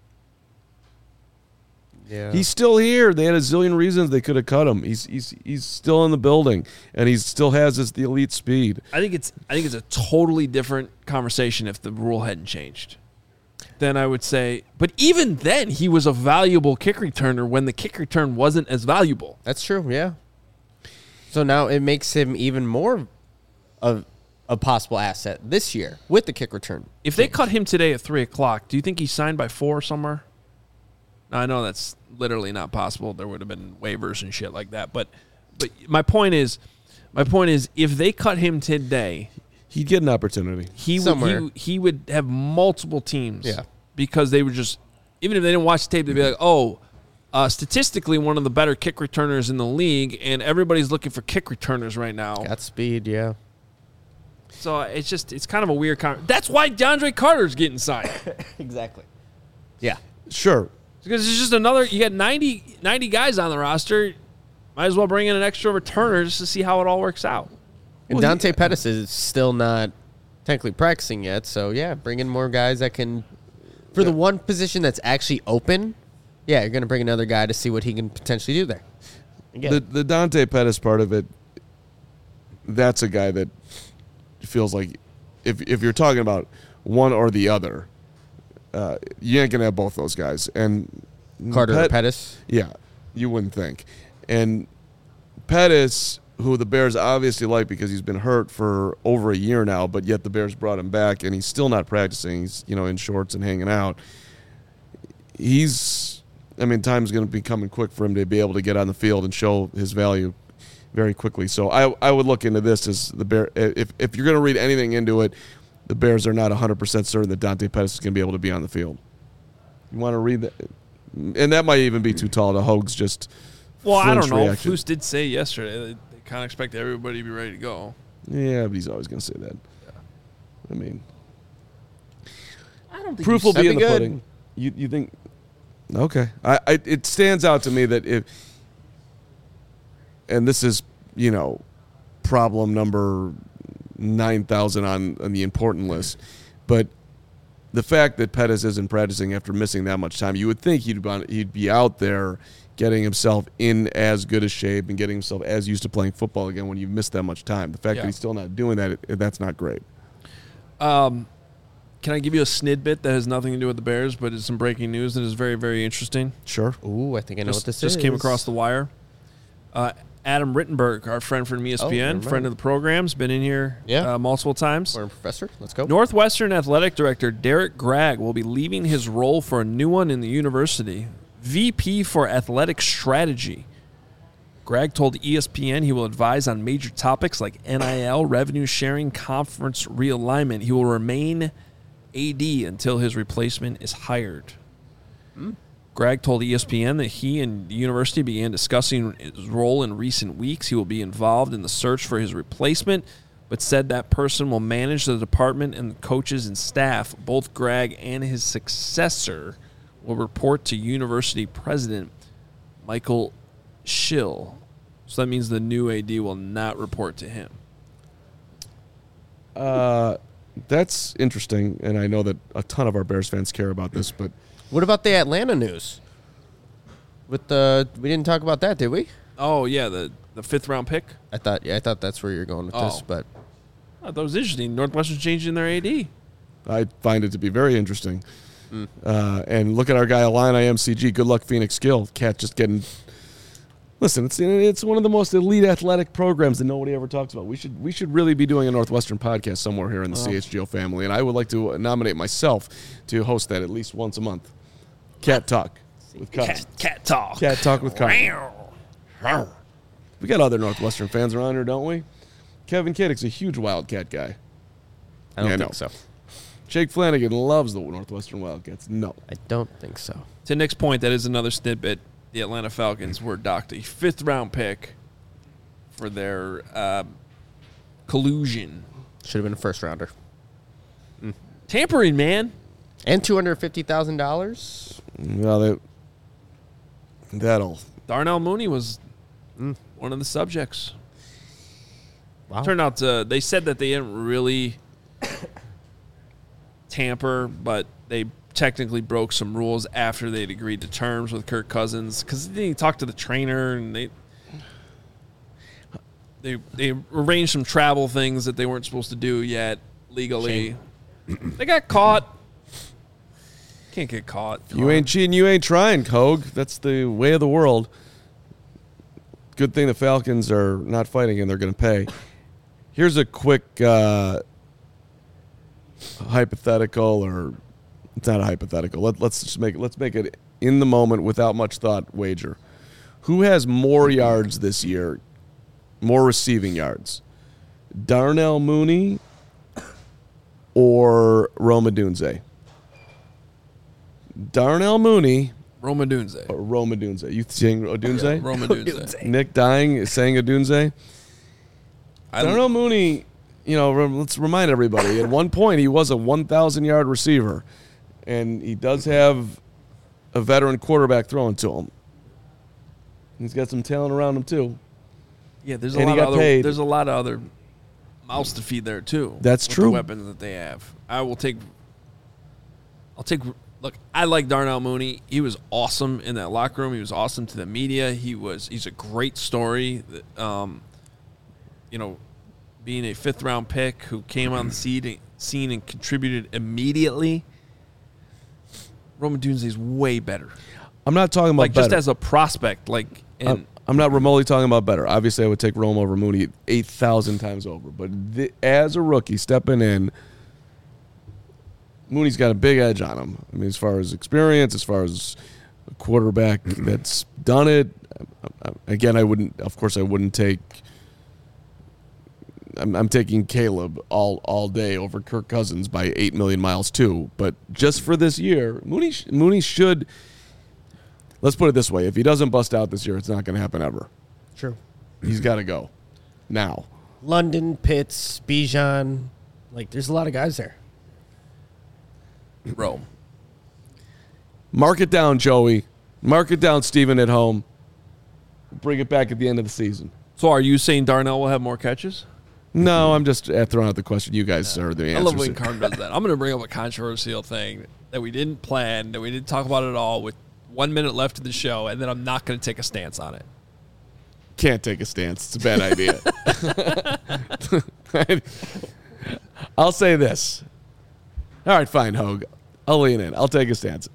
Yeah. He's still here. They had a zillion reasons they could have cut him. He's still in the building, and he still has the elite speed. I think it's a totally different conversation if the rule hadn't changed. Then I would say, but even then, he was a valuable kick returner when the kick return wasn't as valuable. That's true, yeah. So now it makes him even more of a possible asset this year with the kick return. If they cut him today at 3:00, do you think he's signed by 4 somewhere? Now, I know that's literally not possible. There would have been waivers and shit like that. But my point is, if they cut him today, He'd get an opportunity. he would have multiple teams. Yeah. Because they would just, even if they didn't watch the tape, they'd be like, oh, statistically one of the better kick returners in the league, and everybody's looking for kick returners right now. Got speed, yeah. So it's kind of a weird that's why DeAndre Carter's getting signed. Exactly. Yeah. Sure. Because it's just another, you got 90 guys on the roster. Might as well bring in an extra returner just to see how it all works out. And Dante Pettis is still not technically practicing yet, so yeah, bring in more guys that can, for the one position that's actually open, yeah, you're going to bring another guy to see what he can potentially do there. The Dante Pettis part of it, that's a guy that feels like if you're talking about one or the other, you ain't gonna have both those guys. And Carter or Pettis? Yeah, you wouldn't think. And Pettis, who the Bears obviously like because he's been hurt for over a year now, but yet the Bears brought him back, and he's still not practicing. He's, in shorts and hanging out. Time's going to be coming quick for him to be able to get on the field and show his value very quickly. So I would look into this as the Bear. If you're going to read anything into it, the Bears are not 100% certain that Dante Pettis is going to be able to be on the field. You want to read that? And that might even be too tall to Hogue's just I don't know. reaction. Flus did say yesterday they kind of expect everybody to be ready to go. Yeah, but he's always going to say that. Yeah. I don't think proof will be in the good. pudding. You think? Okay. It stands out to me that and this is, problem number 9,000 on the important list, but the fact that Pettis isn't practicing after missing that much time, you would think he'd be out there getting himself in as good a shape and getting himself as used to playing football again when you've missed that much time. The fact that he's still not doing that, that's not great. Can I give you a snidbit that has nothing to do with the Bears, but it's some breaking news that is very, very interesting? Sure. Ooh, I think I know what this is. Just came across the wire. Adam Rittenberg, our friend from ESPN, friend of the program's been in here multiple times. Former professor. Let's go. Northwestern athletic director Derek Gregg will be leaving his role for a new one in the university, VP for athletic strategy. Gregg told ESPN he will advise on major topics like NIL, revenue sharing, conference realignment. He will remain AD until his replacement is hired. Gregg told ESPN that he and the university began discussing his role in recent weeks. He will be involved in the search for his replacement, but said that person will manage the department and the coaches and staff. Both Gregg and his successor will report to university president Michael Schill. So that means the new AD will not report to him. That's interesting, and I know that a ton of our Bears fans care about this, but what about the Atlanta news? We didn't talk about that, did we? Oh yeah, the 5th round pick. I thought that's where you're going with this, but I thought it was interesting. Northwestern's changing their AD. I find it to be very interesting. And look at our guy Illini MCG. Good luck, Phoenix Gill. Cat just getting. Listen, it's one of the most elite athletic programs that nobody ever talks about. We should really be doing a Northwestern podcast somewhere here in the CHGO family, and I would like to nominate myself to host that at least once a month. Cat Talk with Kyle. Cat Talk. Cat Talk with Kyle. We got other Northwestern fans around here, don't we? Kevin Kiddick's a huge Wildcat guy. I don't think so. Jake Flanagan loves the Northwestern Wildcats. No. I don't think so. To Nick's point, that is another snippet. The Atlanta Falcons were docked a 5th round pick for their collusion. Should have been a first rounder. Tampering, man. And $250,000. Well, that'll. Darnell Mooney was one of the subjects. Wow. Turned out they said that they didn't really tamper, but they technically broke some rules after they'd agreed to terms with Kirk Cousins because they talked to the trainer and they arranged some travel things that they weren't supposed to do yet legally. They got caught. Can't get caught. You ain't cheating, you ain't trying, Cogue. That's the way of the world. Good thing the Falcons are not fighting and they're going to pay. Here's a quick hypothetical, or it's not a hypothetical. Let's just make it in the moment without much thought wager. Who has more yards this year, more receiving yards? Darnell Mooney or Rome Odunze? Darnell Mooney. Rome Odunze. Or Rome Odunze. You saying Odunze? Yeah, Rome Odunze. Nick dying saying Odunze. Darnell Mooney, let's remind everybody, at one point he was a 1,000-yard receiver, and he does have a veteran quarterback throwing to him. He's got some talent around him, too. Yeah, there's a lot of other mouths to feed there, too. That's with true. The weapons that they have. Look, I like Darnell Mooney. He was awesome in that locker room. He was awesome to the media. He's a great story. Being a 5th round pick who came on the seen and contributed immediately, Rome Odunze is way better. I'm not talking about better. Just as a prospect. I'm not remotely talking about better. Obviously, I would take Rome over Mooney 8,000 times over. But as a rookie stepping in, Mooney's got a big edge on him. I mean, as far as experience, as far as a quarterback that's done it. Again, I wouldn't take. I'm taking Caleb all day over Kirk Cousins by 8 million miles too. But just for this year, Mooney should. Let's put it this way: if he doesn't bust out this year, it's not going to happen ever. True. He's got to go now. London, Pitts, Bijan, there's a lot of guys there. Rome. Mark it down, Joey. Mark it down, Steven at home. Bring it back at the end of the season. So are you saying Darnell will have more catches? No, I'm just throwing out the question. You guys are the answers. I love when Carm does that. I'm going to bring up a controversial thing that we didn't plan, that we didn't talk about at all with 1 minute left of the show, and then I'm not going to take a stance on it. Can't take a stance. It's a bad idea. I'll say this. All right, fine, Hogue. I'll lean in. I'll take a stance.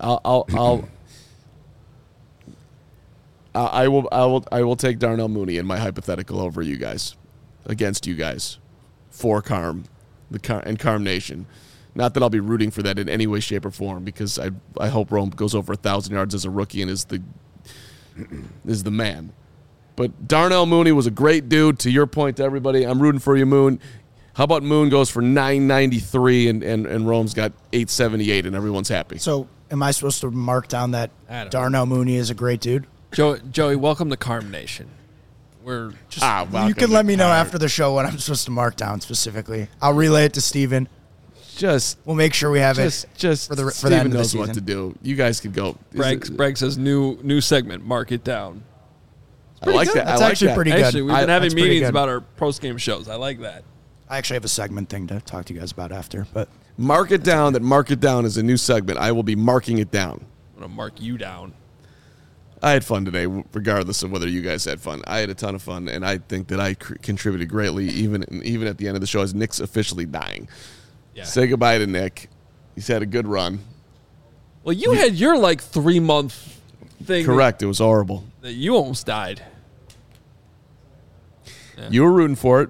I will take Darnell Mooney in my hypothetical over you guys, against you guys, for Carm, and Carm Nation. Not that I'll be rooting for that in any way, shape, or form, because I hope Rome goes over 1,000 yards as a rookie and is the man. But Darnell Mooney was a great dude. To your point, to everybody, I'm rooting for you, Moon. How about Moon goes for 993 and Rome's got 878 and everyone's happy? So am I supposed to mark down that Darnell Mooney is a great dude? Joey, welcome to Carm Nation. We're just you can let me know after the show what I'm supposed to mark down specifically. I'll relay it to Steven. We'll make sure we have it for the Steven knows what to do. You guys could go. Bragg says new segment, mark it down. I like that. That's actually pretty good. Actually, we've been having meetings about our post-game shows. I like that. I actually have a segment thing to talk to you guys about after. But mark it down. That mark it down is a new segment. I will be marking it down. I'm going to mark you down. I had fun today, regardless of whether you guys had fun. I had a ton of fun, and I think that I contributed greatly, even at the end of the show, as Nick's officially dying. Yeah. Say goodbye to Nick. He's had a good run. Well, you had your 3-month thing. Correct. It was horrible. That you almost died. Yeah. You were rooting for it.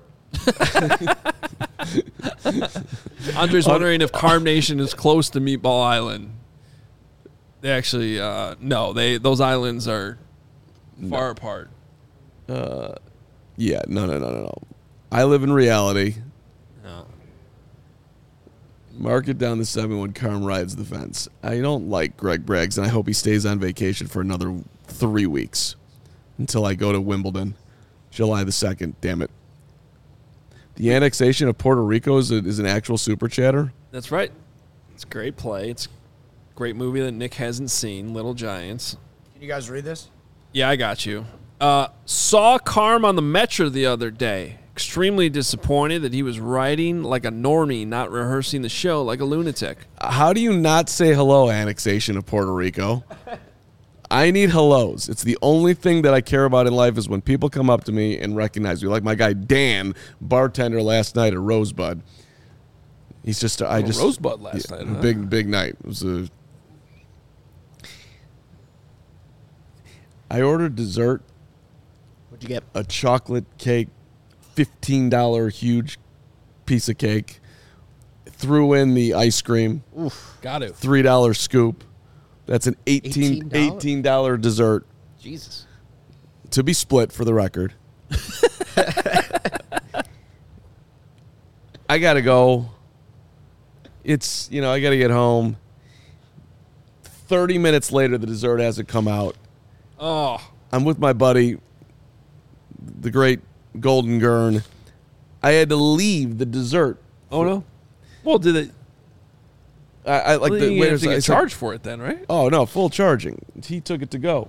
Andre's wondering if Carm Nation is close to Meatball Island. They actually, no. Those islands are far apart. Yeah, no. I live in reality. No. Mark it down to 7 when Carm rides the fence. I don't like Greg Braggs, and I hope he stays on vacation for another 3 weeks until I go to Wimbledon, July the 2nd. Damn it. The annexation of Puerto Rico is an actual super chatter? That's right. It's a great play. It's a great movie that Nick hasn't seen, Little Giants. Can you guys read this? Yeah, I got you. Saw Carm on the Metro the other day. Extremely disappointed that he was writing like a normie, not rehearsing the show like a lunatic. How do you not say hello, annexation of Puerto Rico? I need hellos. It's the only thing that I care about in life is when people come up to me and recognize me. Like my guy Dan, bartender last night at Rosebud. He's just Rosebud last night. Huh? Big night. It was I ordered dessert. What'd you get? A chocolate cake, $15 huge piece of cake. Threw in the ice cream. Oof, got it. $3 scoop. That's an $18 dessert. Jesus. To be split, for the record. I got to go. It's, I got to get home. 30 minutes later, the dessert hasn't come out. Oh. I'm with my buddy, the great Golden Gurn. I had to leave the dessert. Oh, no? Well, did it... I like the way to get charged for it then, right? Oh no, full charging. He took it to go.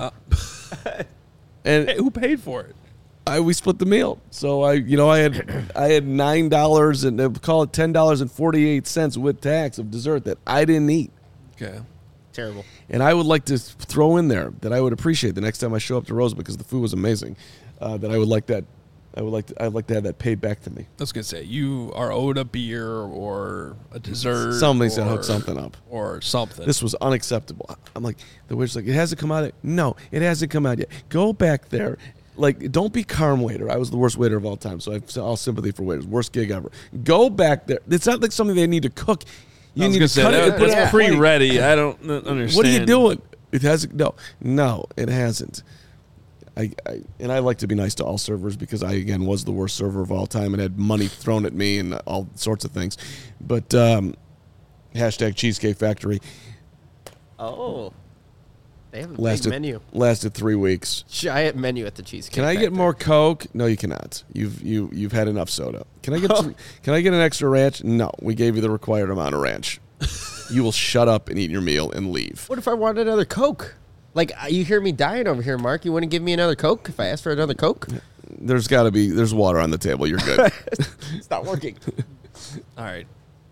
And hey, who paid for it? We split the meal. So I had $9 and call it $10.48 with tax of dessert that I didn't eat. Okay, terrible. And I would like to throw in there that I would appreciate the next time I show up to Rose because the food was amazing. That I would like that I'd like to have that paid back to me. I was gonna say you are owed a beer or a dessert. Somebody's gonna hook something up or something. This was unacceptable. I'm like, the waiter's like, it hasn't come out yet. No, it hasn't come out yet. Go back there. Like, don't be Carm waiter. I was the worst waiter of all time, so I have all sympathy for waiters. Worst gig ever. Go back there. It's not like something they need to cook. You need to cut it and put it pre-ready. I don't understand. What are you doing? It hasn't. No, it hasn't. I like to be nice to all servers because I, again, was the worst server of all time and had money thrown at me and all sorts of things. But hashtag Cheesecake Factory. Oh. They have a big menu. Lasted 3 weeks. Giant menu at the Cheesecake Can I Factory. get more Coke? No, you cannot. You've had enough soda. Can I get an extra ranch? No, we gave you the required amount of ranch. You will shut up and eat your meal and leave. What if I want another Coke? Like, you hear me dying over here, Mark. You wouldn't give me another Coke if I asked for another Coke? There's water on the table. You're good. It's not working. All right.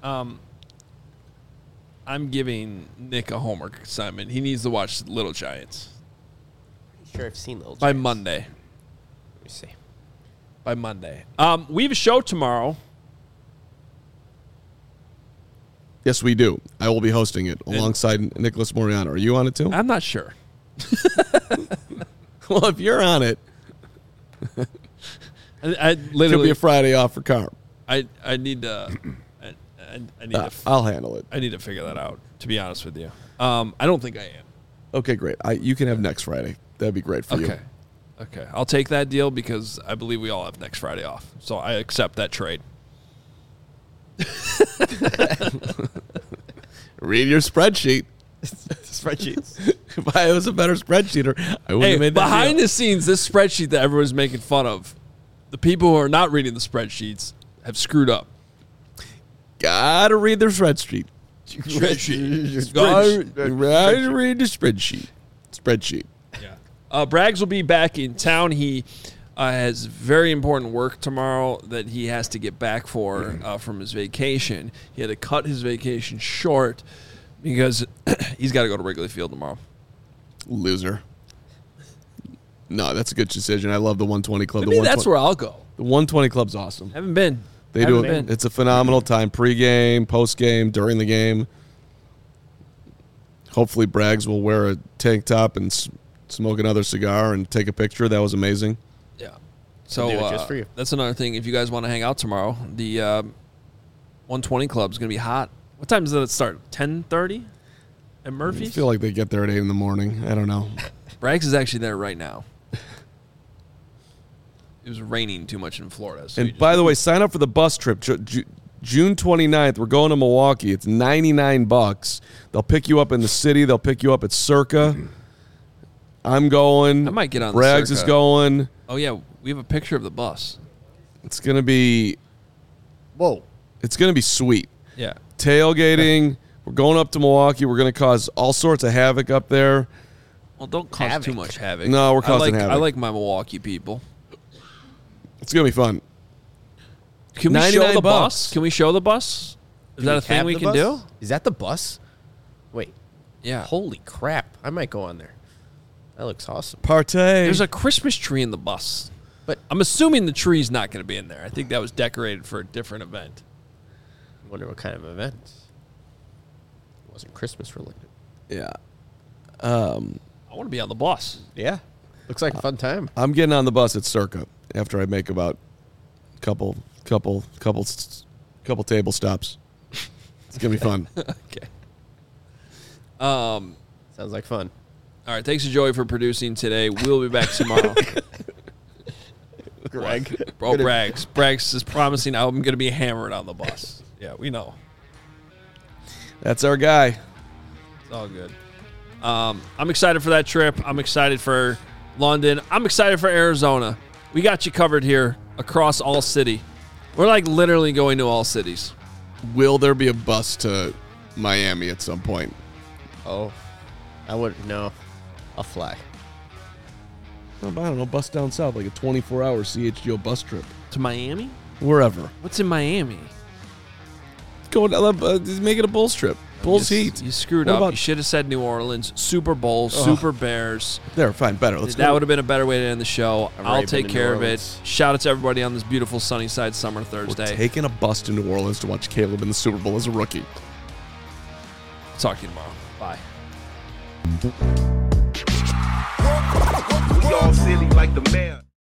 I'm giving Nick a homework assignment. He needs to watch Little Giants. Pretty sure I've seen Little Giants. By Monday. Let me see. By Monday. We have a show tomorrow. Yes, we do. I will be hosting it alongside Nicholas Moriano. Are you on it too? I'm not sure. Well, if you're on it, I literally it'll be a Friday off for Carm. I need to. I need to. I'll handle it. I need to figure that out. To be honest with you, I don't think I am. Okay, great. You can have next Friday. That'd be great for you. Okay. I'll take that deal because I believe we all have next Friday off. So I accept that trade. Read your spreadsheet. Spreadsheets. If I was a better spreadsheeter, I wouldn't have made that behind deal. the scenes, this spreadsheet that everyone's making fun of, the people who are not reading the spreadsheets have screwed up. Gotta read the spreadsheet. Gotta read the spreadsheet. Yeah. Braggs will be back in town. He has very important work tomorrow that he has to get back for from his vacation. He had to cut his vacation short because he's got to go to Wrigley Field tomorrow. Loser. No, that's a good decision. I love the 120 Club. Maybe that's where I'll go. The 120 Club's awesome. Haven't been. They do it. It's a phenomenal time. Pre-game, post-game, during the game. Hopefully Braggs will wear a tank top and smoke another cigar and take a picture. That was amazing. Yeah. So do it just for you. That's another thing. If you guys want to hang out tomorrow, the 120 Club is going to be hot. What time does it start? 10:30 at Murphy's? I feel like they get there at 8 in the morning. I don't know. Braggs is actually there right now. It was raining too much in Florida. So and by the way, sign up for the bus trip. June 29th, we're going to Milwaukee. It's $99. They'll pick you up in the city. They'll pick you up at Circa. I'm going. I might get on Braggs the is going. Oh, yeah. We have a picture of the bus. It's going to be. Whoa. It's going to be sweet. Yeah. Tailgating. We're going up to Milwaukee. We're going to cause all sorts of havoc up there. Well, don't cause too much havoc. No, we're causing havoc. I like my Milwaukee people. It's going to be fun. Can we show the bus? Can we show the bus? Is that a thing we can do? Is that the bus? Wait. Yeah. Holy crap. I might go on there. That looks awesome. Partay. There's a Christmas tree in the bus. But I'm assuming the tree's not going to be in there. I think that was decorated for a different event. I wonder what kind of event. It wasn't Christmas related. Yeah. I want to be on the bus. Yeah. Looks like a fun time. I'm getting on the bus at Circa after I make about a couple table stops. It's gonna be fun. Okay. Sounds like fun. All right. Thanks to Joey for producing today. We'll be back tomorrow. Greg. Bro, Braggs. Braggs is promising I'm going to be hammered on the bus. Yeah, we know. That's our guy. It's all good. I'm excited for that trip. I'm excited for London. I'm excited for Arizona. We got you covered here across all city. We're like literally going to all cities. Will there be a bus to Miami at some point? Oh, I wouldn't know. I'll fly. I don't know, bus down south, like a 24-hour CHGO bus trip. To Miami? Wherever. What's in Miami? Go, just make it a Bulls trip. Bulls Heat. You screwed up. You should have said New Orleans. Super Bowl, Super Bears. They're fine, better. That would have been a better way to end the show. I'll take care of it. Shout out to everybody on this beautiful Sunnyside Summer Thursday. We're taking a bus to New Orleans to watch Caleb in the Super Bowl as a rookie. Talk to you tomorrow. Bye. We all silly like the man.